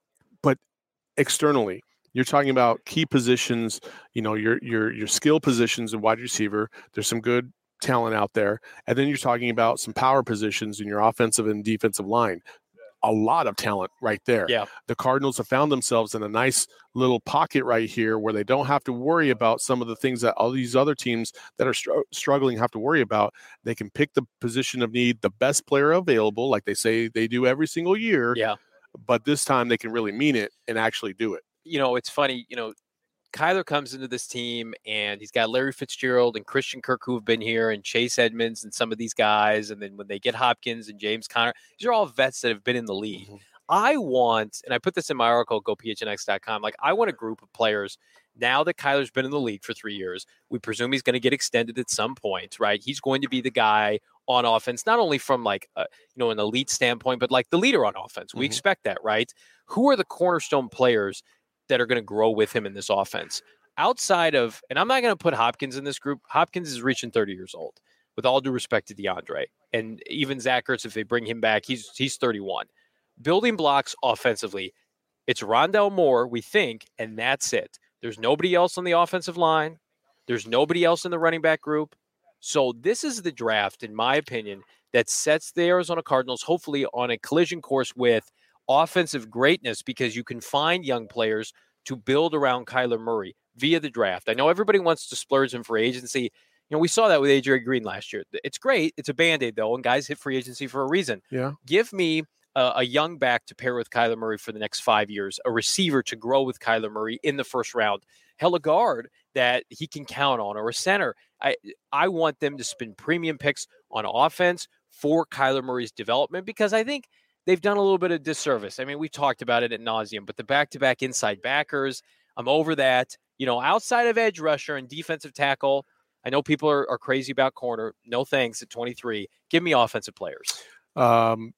But externally, you're talking about key positions, you know, your your your skill positions in wide receiver. There's some good talent out there. And then you're talking about some power positions in your offensive and defensive line. A lot of talent right there. Yeah. The Cardinals have found themselves in a nice little pocket right here where they don't have to worry about some of the things that all these other teams that are str- struggling have to worry about. They can pick the position of need, the best player available, like they say they do every single year. Yeah. But this time they can really mean it and actually do it. You know, it's funny, you know, Kyler comes into this team and he's got Larry Fitzgerald and Christian Kirk who have been here and Chase Edmonds and some of these guys. And then when they get Hopkins and James Conner, these are all vets that have been in the league. Mm-hmm. I want, and I put this in my article, go P H N X dot com, like I want a group of players now that Kyler's been in the league for three years. We presume he's going to get extended at some point, right? He's going to be the guy on offense, not only from like, a, you know, an elite standpoint, but like the leader on offense. We Mhm. expect that, right? Who are the cornerstone players that are going to grow with him in this offense? Outside of, and I'm not going to put Hopkins in this group. Hopkins is reaching thirty years old, with all due respect to DeAndre. And even Zach Ertz, if they bring him back, he's he's thirty-one. Building blocks offensively, it's Rondale Moore, we think, and that's it. There's nobody else on the offensive line. There's nobody else in the running back group. So this is the draft, in my opinion, that sets the Arizona Cardinals hopefully on a collision course with offensive greatness, because you can find young players to build around Kyler Murray via the draft. I know everybody wants to splurge in free agency. You know, we saw that with A J Green last year. It's great. It's a Band-Aid, though, and guys hit free agency for a reason. Yeah. Give me a, a young back to pair with Kyler Murray for the next five years, a receiver to grow with Kyler Murray in the first round, hell, a guard that he can count on, or a center. I I want them to spend premium picks on offense for Kyler Murray's development, because I think they've done a little bit of disservice. I mean, we talked about it ad nauseum, but the back-to-back inside backers, I'm over that. You know, outside of edge rusher and defensive tackle, I know people are, are crazy about corner. No thanks at twenty-three. Give me offensive players. Um,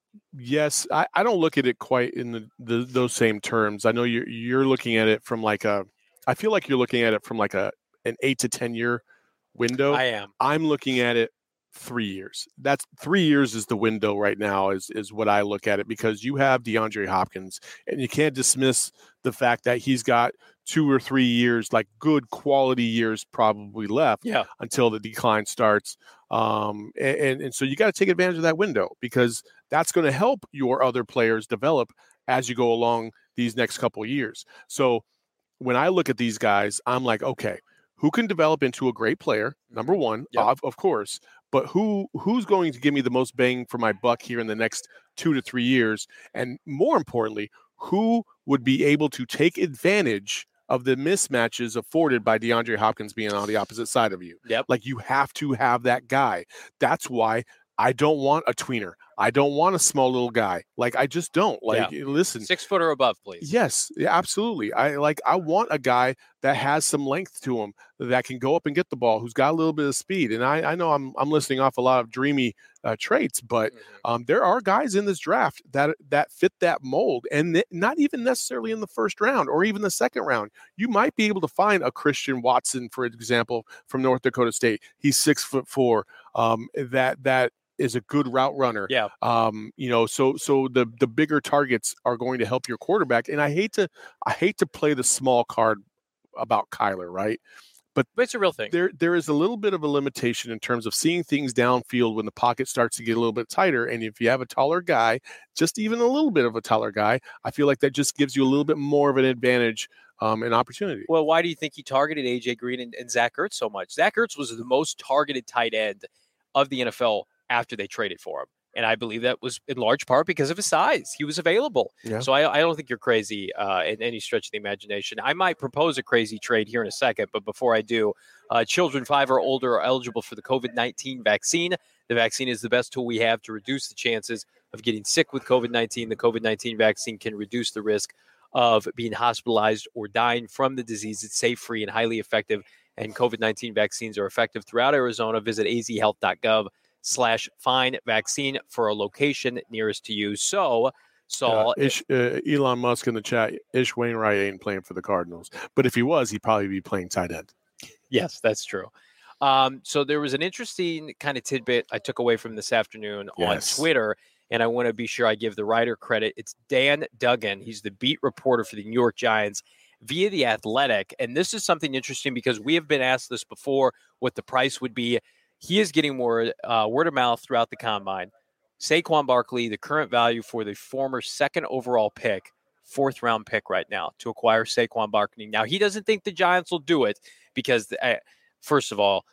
Yes, I, I don't look at it quite in the, the those same terms. I know you're you're looking at it from like a. I feel like you're looking at it from like a an eight to ten year window. I am. I'm looking at it three years. That's three years is the window right now. Is is what I look at it, because you have DeAndre Hopkins, and you can't dismiss the fact that he's got two or three years, like good quality years, probably left. Yeah. Until the decline starts. Um, and, and, and so you got to take advantage of that window, because that's going to help your other players develop as you go along these next couple of years. So when I look at these guys, I'm like, okay, who can develop into a great player? Number one, Yep. of, of course, but who who's going to give me the most bang for my buck here in the next two to three years? And more importantly, who would be able to take advantage of the mismatches afforded by DeAndre Hopkins being on the opposite side of you? Yep. Like, you have to have that guy. That's why I don't want a tweener. I don't want a small little guy. Like, I just don't. Like, listen. Six foot or above, please. Yes, yeah, absolutely. I like. I want a guy that has some length to him, that can go up and get the ball, who's got a little bit of speed. And I, I know I'm I'm listing off a lot of dreamy uh, traits, but Mm-hmm. um, there are guys in this draft that that fit that mold, and th- not even necessarily in the first round or even the second round. You might be able to find a Christian Watson, for example, from North Dakota State. He's six foot four. Um, that that. is a good route runner. Yeah. Um, you know, so so the the bigger targets are going to help your quarterback. And I hate to I hate to play the small card about Kyler, right? But But it's a real thing. there there is a little bit of a limitation in terms of seeing things downfield when the pocket starts to get a little bit tighter. And if you have a taller guy, just even a little bit of a taller guy, I feel like that just gives you a little bit more of an advantage, um, and opportunity. Well, why do you think he targeted A J Green and, and Zach Ertz so much? Zach Ertz was the most targeted tight end of the N F L after they traded for him. And I believe that was in large part because of his size. He was available. Yeah. So I, I don't think you're crazy uh, in any stretch of the imagination. I might propose a crazy trade here in a second, but before I do, uh, children five or older are eligible for the COVID nineteen vaccine. The vaccine is the best tool we have to reduce the chances of getting sick with COVID nineteen. The COVID nineteen vaccine can reduce the risk of being hospitalized or dying from the disease. It's safe, free, and highly effective. And COVID nineteen vaccines are effective throughout Arizona. Visit a z health dot gov slash find vaccine for a location nearest to you. So, Saul, Uh, Ish, uh, Elon Musk in the chat, Ish Wainwright ain't playing for the Cardinals. But if he was, he'd probably be playing tight end. yes, that's true. Um, so there was an interesting kind of tidbit I took away from this afternoon Yes. on Twitter, and I want to be sure I give the writer credit. It's Dan Duggan. He's the beat reporter for the New York Giants via The Athletic. And this is something interesting because we have been asked this before, what the price would be. He is getting word, uh, word of mouth throughout the combine. Saquon Barkley, the current value for the former second overall pick, fourth round pick right now to acquire Saquon Barkley. Now, he doesn't think the Giants will do it because, uh, first of all,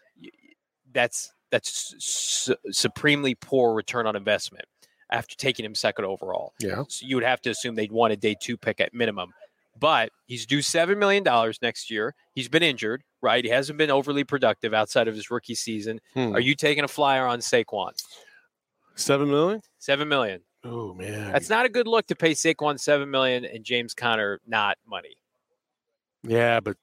that's that's su- supremely poor return on investment after taking him second overall. Yeah. So you would have to assume they'd want a day two pick at minimum. But he's due seven million dollars next year. He's been injured, right? He hasn't been overly productive outside of his rookie season. Hmm. Are you taking a flyer on Saquon? Seven million? seven million Oh, man. That's not a good look to pay Saquon seven million dollars and James Conner not money. Yeah, but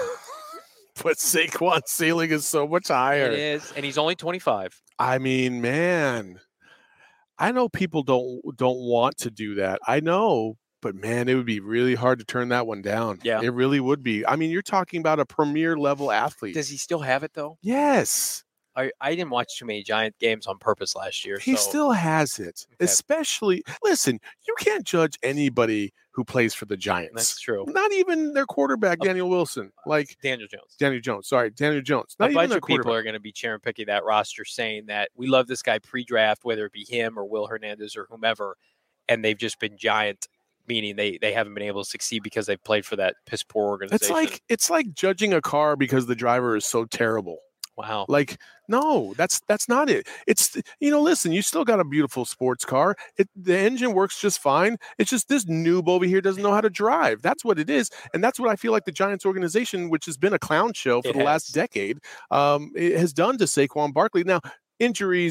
but Saquon's ceiling is so much higher. It is, and he's only twenty-five. I mean, man, I know people don't don't want to do that. I know, but man, it would be really hard to turn that one down. Yeah. It really would be. I mean, you're talking about a premier level athlete. Does he still have it, though? Yes. I, I didn't watch too many Giant games on purpose last year. He so. still has it. Okay. Especially, listen, you can't judge anybody who plays for the Giants. That's true. Not even their quarterback, Uh, Daniel Wilson. Like Daniel Jones. Daniel Jones. Sorry, Daniel Jones. Not A even bunch their of people quarterback. are going to be cherry picking that roster, saying that we love this guy pre-draft, whether it be him or Will Hernandez or whomever, and they've just been Giant, meaning they they haven't been able to succeed because they've played for that piss poor organization. It's like it's like judging a car because the driver is so terrible. wow. Like, no, that's that's not it. It's, you know, listen, you still got a beautiful sports car. It, the engine works just fine. It's just this noob over here doesn't know how to drive. That's what it is, and that's what I feel like the Giants organization, which has been a clown show for It the last has. decade, um, it has done to Saquon Barkley. Now, injuries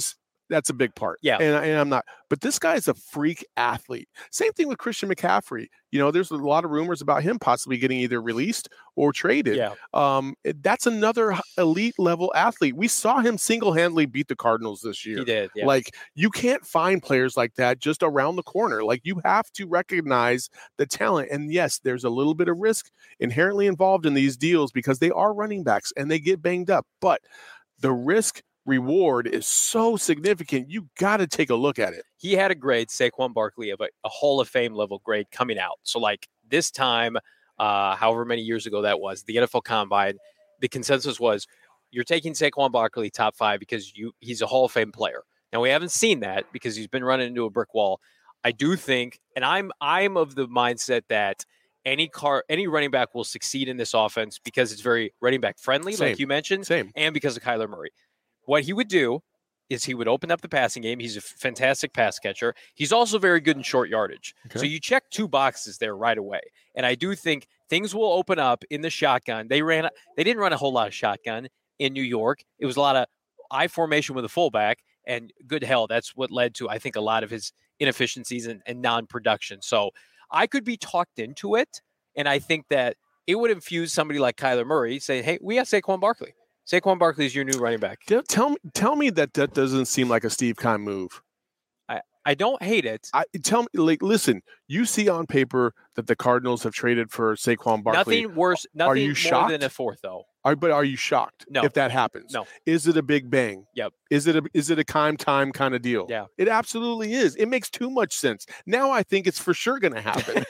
That's a big part. Yeah. And, and I'm not, but this guy is a freak athlete. Same thing with Christian McCaffrey. You know, there's a lot of rumors about him possibly getting either released or traded. Yeah. Um, that's another elite level athlete. We saw him single-handedly beat the Cardinals this year. He did. Yeah. Like, you can't find players like that just around the corner. Like, you have to recognize the talent. And yes, there's a little bit of risk inherently involved in these deals because they are running backs and they get banged up. But the risk reward is so significant. You got to take a look at it. He had a grade, Saquon Barkley, of a, a Hall of Fame level grade coming out. So, like, this time, uh, however many years ago that was, the N F L Combine, the consensus was you're taking Saquon Barkley top five because you he's a Hall of Fame player. Now, we haven't seen that because he's been running into a brick wall. I do think, and I'm I'm of the mindset that any car any running back will succeed in this offense because it's very running back friendly, Same. like you mentioned, Same. and because of Kyler Murray. What he would do is he would open up the passing game. He's a fantastic pass catcher. He's also very good in short yardage. Okay. So you check two boxes there right away. And I do think things will open up in the shotgun. They ran they didn't run a whole lot of shotgun in New York. It was a lot of I formation with a fullback, and good hell, that's what led to, I think, a lot of his inefficiencies and, and non-production. So I could be talked into it, and I think that it would infuse somebody like Kyler Murray saying, hey, we got Saquon Barkley. Saquon Barkley is your new running back. Tell me, tell me that that doesn't seem like a Steve Keim move. I, I don't hate it. I tell me, like, listen, you see on paper that the Cardinals have traded for Saquon Barkley. Nothing worse. Nothing Are you more shocked? than a fourth, though. Are, but are you shocked No. if that happens? No. Is it a big bang? Yep. Is it a is it a Keim time kind of deal? Yeah. It absolutely is. It makes too much sense. Now I think it's for sure going to happen.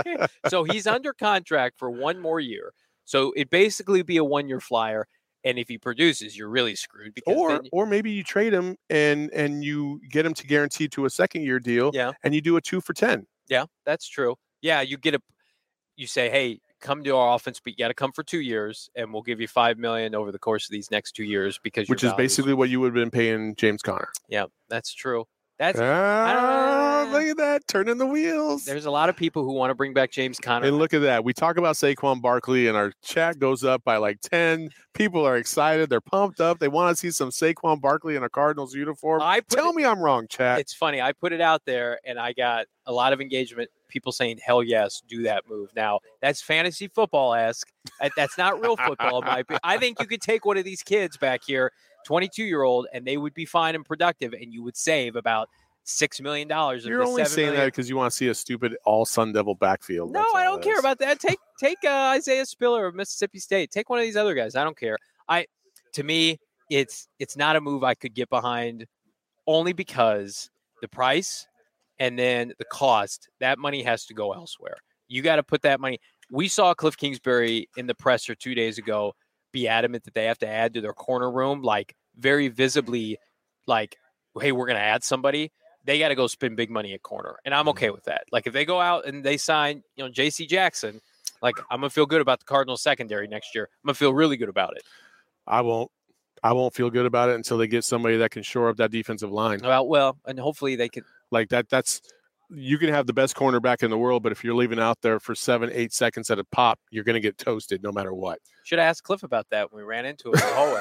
So he's under contract for one more year. So it basically be a one-year flyer. And if he produces, you're really screwed. Because or then, or maybe you trade him and and you get him to guarantee to a second year deal. Yeah. And you do a two for ten. Yeah, that's true. Yeah, you get a, you say, hey, come to our offense, but you got to come for two years, and we'll give you five million dollars over the course of these next two years because Which your is values- basically what you would have been paying James Conner. Yeah, that's true. That's Ah, uh, look at that, turning the wheels. there's a lot of people who want to bring back James Conner. And look at that. We talk about Saquon Barkley, and our chat goes up by like ten. People are excited. They're pumped up. They want to see some Saquon Barkley in a Cardinals uniform. I put Tell it- me I'm wrong, chat. It's funny. I put it out there, and I got a lot of engagement. People saying, "Hell yes, do that move." Now that's fantasy football-esque. That- That's not real football. in my opinion. I think you could take one of these kids back here, twenty-two-year-old, and they would be fine and productive, and you would save about six million dollars. You're only saying that because you want to see a stupid all Sun Devil backfield. No, That's I all don't it care is. about that. Take take uh, Isaiah Spiller of Mississippi State. Take one of these other guys. I don't care. I to me, it's it's not a move I could get behind, only because the price and then the cost. That money has to go elsewhere. You got to put that money. We saw Cliff Kingsbury in the presser two days ago be adamant that they have to add to their corner room, like very visibly, like, hey, we're going to add somebody. They got to go spend big money at corner. And I'm okay with that. Like if they go out and they sign, you know, J C Jackson, like I'm going to feel good about the Cardinals secondary next year. I'm going to feel really good about it. I won't. I won't feel good about it until they get somebody that can shore up that defensive line. Well, well, and hopefully they could. Like that. That's you can have the best cornerback in the world, but if you're leaving out there for seven, eight seconds at a pop, you're going to get toasted no matter what. Should have asked Cliff about that when we ran into him in the hallway.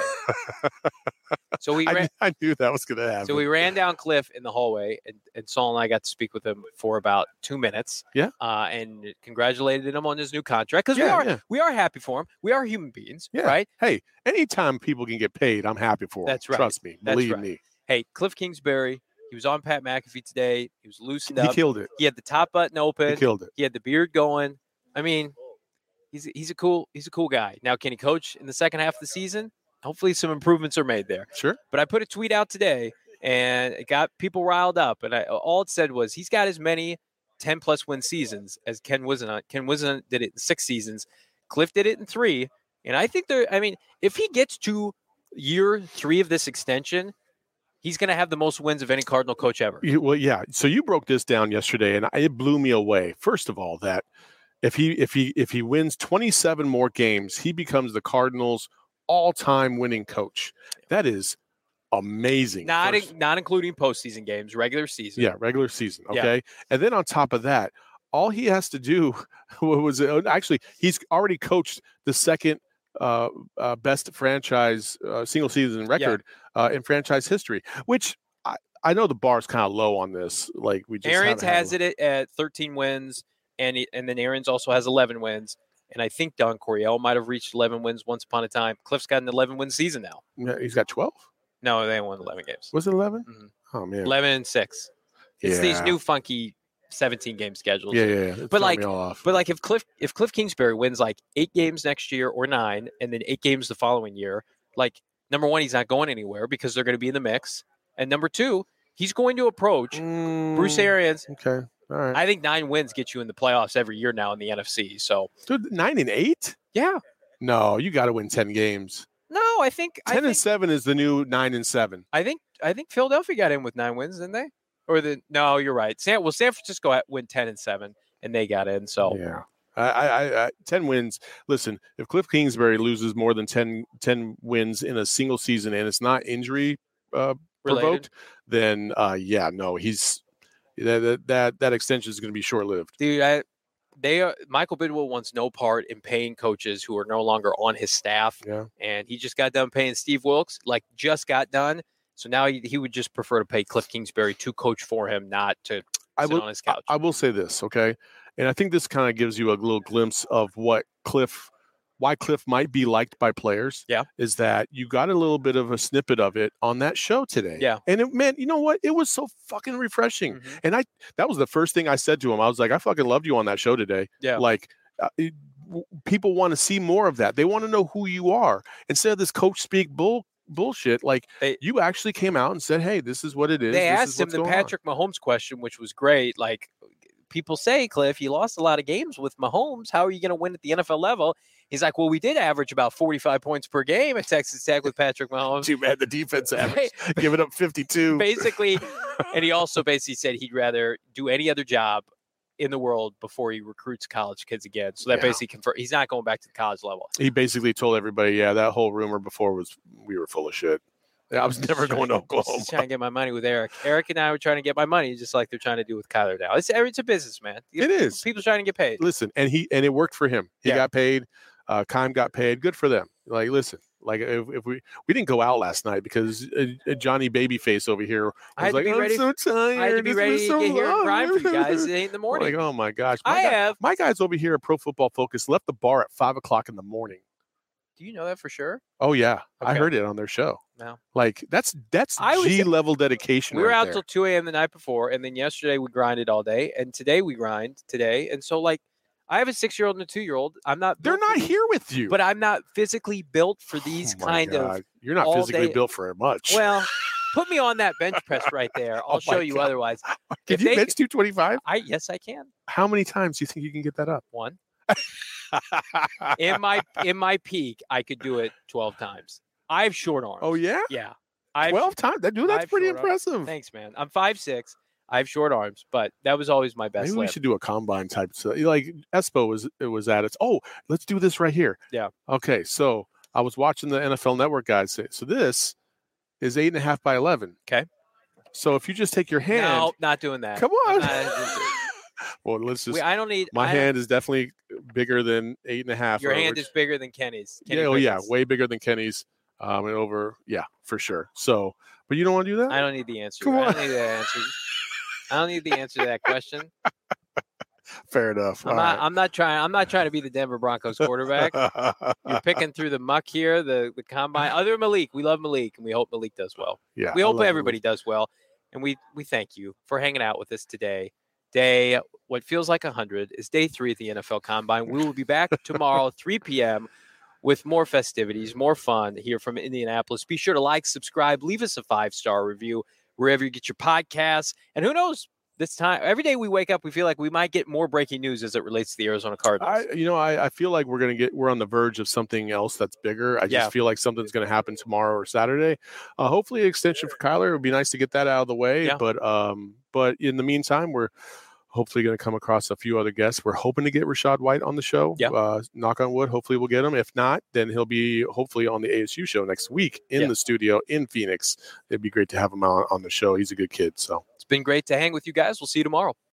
So we ran. I, I knew that was going to happen. So we ran down Cliff in the hallway, and, and Saul and I got to speak with him for about two minutes. Yeah. Uh, and congratulated him on his new contract because we Yeah, are yeah. we are happy for him. We are human beings, Yeah. right? Hey, anytime people can get paid, I'm happy for them. That's right. Trust me. That's Believe right. me. Hey, Cliff Kingsbury. He was on Pat McAfee today. He was loosened He up. killed it. He had the top button He open. killed it. He had the beard going. I mean, he's he's a cool he's a cool guy. Now, can he coach in the second half of the season? Hopefully, some improvements are made there. Sure. But I put a tweet out today, and it got people riled up. And I, all it said was he's got as many ten plus win seasons as Ken Wisenhunt. Ken Wisenhunt did it in six seasons. Cliff did it in three. And I think there. I mean, if he gets to year three of this extension, he's going to have the most wins of any Cardinal coach ever. You- Well, yeah. So you broke this down yesterday, and it blew me away. First of all, that if he if he if he wins twenty-seven more games, he becomes the Cardinals' all-time winning coach. That is amazing. Not First- in, not including postseason games, regular season. yeah, regular season. Yeah. Okay, and then on top of that, all he has to do was actually he's already coached the second uh, uh, best franchise uh, single season record uh, in franchise history, which I, I know the bar's kind of low on this. Like we just Arians haven't had- has it at thirteen wins, and he, and then Arians also has eleven wins. And I think Don Coryell might have reached eleven wins once upon a time. Cliff's got an eleven-win season now. Yeah, he's got twelve. No, they won eleven games. Was it eleven? Mhm. Oh man, eleven and six. It's Yeah. these new funky seventeen-game schedules. Yeah, yeah. yeah. It's But throwing like- me all off. But like if Cliff if Cliff Kingsbury wins like eight games next year or nine, and then eight games the following year, like number one, he's not going anywhere because they're going to be in the mix, and number two, he's going to approach Mm, Bruce Arians. Okay, all right. I think nine wins get you in the playoffs every year now in the N F C. So Dude, nine and eight? yeah, No, you got to win ten games. no, I think I Ten think, and seven is the new nine and seven. I think I think Philadelphia got in with nine wins, didn't they? Or the no, you're right. San well, San Francisco had- went ten and seven, and they got in. So Yeah. I, I, I, ten wins. Listen, if Cliff Kingsbury loses more than ten, ten wins in a single season and it's not injury uh, Related. provoked, then uh, yeah, no, he's that that that, that extension is going to be short lived. dude, I, they are, Michael Bidwell wants no part in paying coaches who are no longer on his staff, Yeah. and he just got done paying Steve Wilkes, like just got done. So now he, he would just prefer to pay Cliff Kingsbury to coach for him, not to I sit will. on his I, couch. I will say this, okay, and I think this kind of gives you a little glimpse of what Cliff, why Cliff might be liked by players. Yeah. Is that you got a little bit of a snippet of it on that show today. Yeah. And it, man, you know what? It was so fucking refreshing. Mhm. And I, that was the first thing I said to him. I was like, I fucking loved you on that show today. Yeah. Like, uh, it, w- people want to see more of that. They want to know who you are instead of this coach speak bull bullshit. Like, They- you actually came out and said, "Hey, this is what it is." They This asked is him what's the going on." Patrick Mahomes question, which was great. Like, people say, Cliff, you lost a lot of games with Mahomes. How are you going to win at the N F L level? He's like, well, we did average about forty-five points per game at Texas Tech with Patrick Mahomes. Too bad the defense average giving up fifty-two. Basically, and he also basically said he'd rather do any other job in the world before he recruits college kids again. So that Yeah. basically confirmed he's not going back to the college level. He basically told everybody, "Yeah, that whole rumor before was we were full of shit. Yeah, I was never going to Oklahoma." He's trying to get my money with Eric. Eric and I were trying to get my money, just like they're trying to do with Kyler now. It's it's a business, man. It is. People trying to get paid. Listen, and he and it worked for him. He Yeah. got paid. Uh, Kime got paid. Good for them. Like, listen, like if, if we we didn't go out last night because uh, uh, Johnny Babyface over here was I had to like, be "I'm ready- so tired. I had to be This ready was to so get here and long." grind for you guys at eight in the morning. Like, oh my gosh, my I guy- have. my guys over here at Pro Football Focus left the bar at five o'clock in the morning. Do you know that for sure? Oh yeah, I Okay. heard it on their show. No. Like that's that's I was- G level dedication. We were right out there. till two a.m. the night before, and then yesterday we grinded all day, and today we grind today. And so, like, I have a six-year-old and a two-year-old. I'm not. They're built for not these- here with you. but I'm not physically built for these Oh my kind of. God. You're not all physically day- built for much. Well, put me on that bench press right there. I'll Oh show my you God. otherwise. can if you they- bench two twenty-five? I yes, I can. How many times do you think you can get that up? One in my in my peak, I could do it twelve times. I have short arms. Oh yeah, yeah. I twelve times. That dude, that's I've pretty short arms. impressive. Thanks, man. I'm five six. I have short arms, but that was always my best. Maybe we lift. should do a combine type. So, like Espo was it was at its. Oh, let's do this right here. Yeah. Okay, so I was watching the N F L Network guys say. So this is eight and a half by eleven. Okay. So if you just take your hand, No, not doing that. come I'm on. not- well, let's just. we, I don't need my I- hand is definitely bigger than eight and a half. Your or hand which- is bigger than Kenny's. Kenny yeah, oh yeah, Pickett's. way bigger than Kenny's. Um, and over, yeah, for sure. So, but you don't want to do that? I don't need the answer. Come I on. don't need the answer. I don't need the answer to that question. Fair enough. I'm All not. right. I'm not trying. I'm not trying to be the Denver Broncos quarterback. You're picking through the muck here, the the combine. Other than Malik, we love Malik, and we hope Malik does well. yeah, We I hope love everybody does well, and we we thank you for hanging out with us today. Day what feels like a hundred is day three at the N F L Combine. We will be back tomorrow, three p.m. with more festivities, more fun here from Indianapolis. Be sure to like, subscribe, leave us a five star review wherever you get your podcasts, and who knows. This time, every day we wake up, we feel like we might get more breaking news as it relates to the Arizona Cardinals. I, you know, I, I feel like we're gonna get we're on the verge of something else that's bigger. I just Yeah. feel like something's gonna happen tomorrow or Saturday. Uh, hopefully, an extension for Kyler. It would be nice to get that out of the way. Yeah. But um, but in the meantime, we're hopefully going to come across a few other guests. We're hoping to get Rashad White on the show. Yeah. Uh, knock on wood. Hopefully, we'll get him. If not, then he'll be hopefully on the A S U show next week in Yeah. the studio in Phoenix. It'd be great to have him on, on the show. He's a good kid. So. It's been great to hang with you guys. We'll see you tomorrow.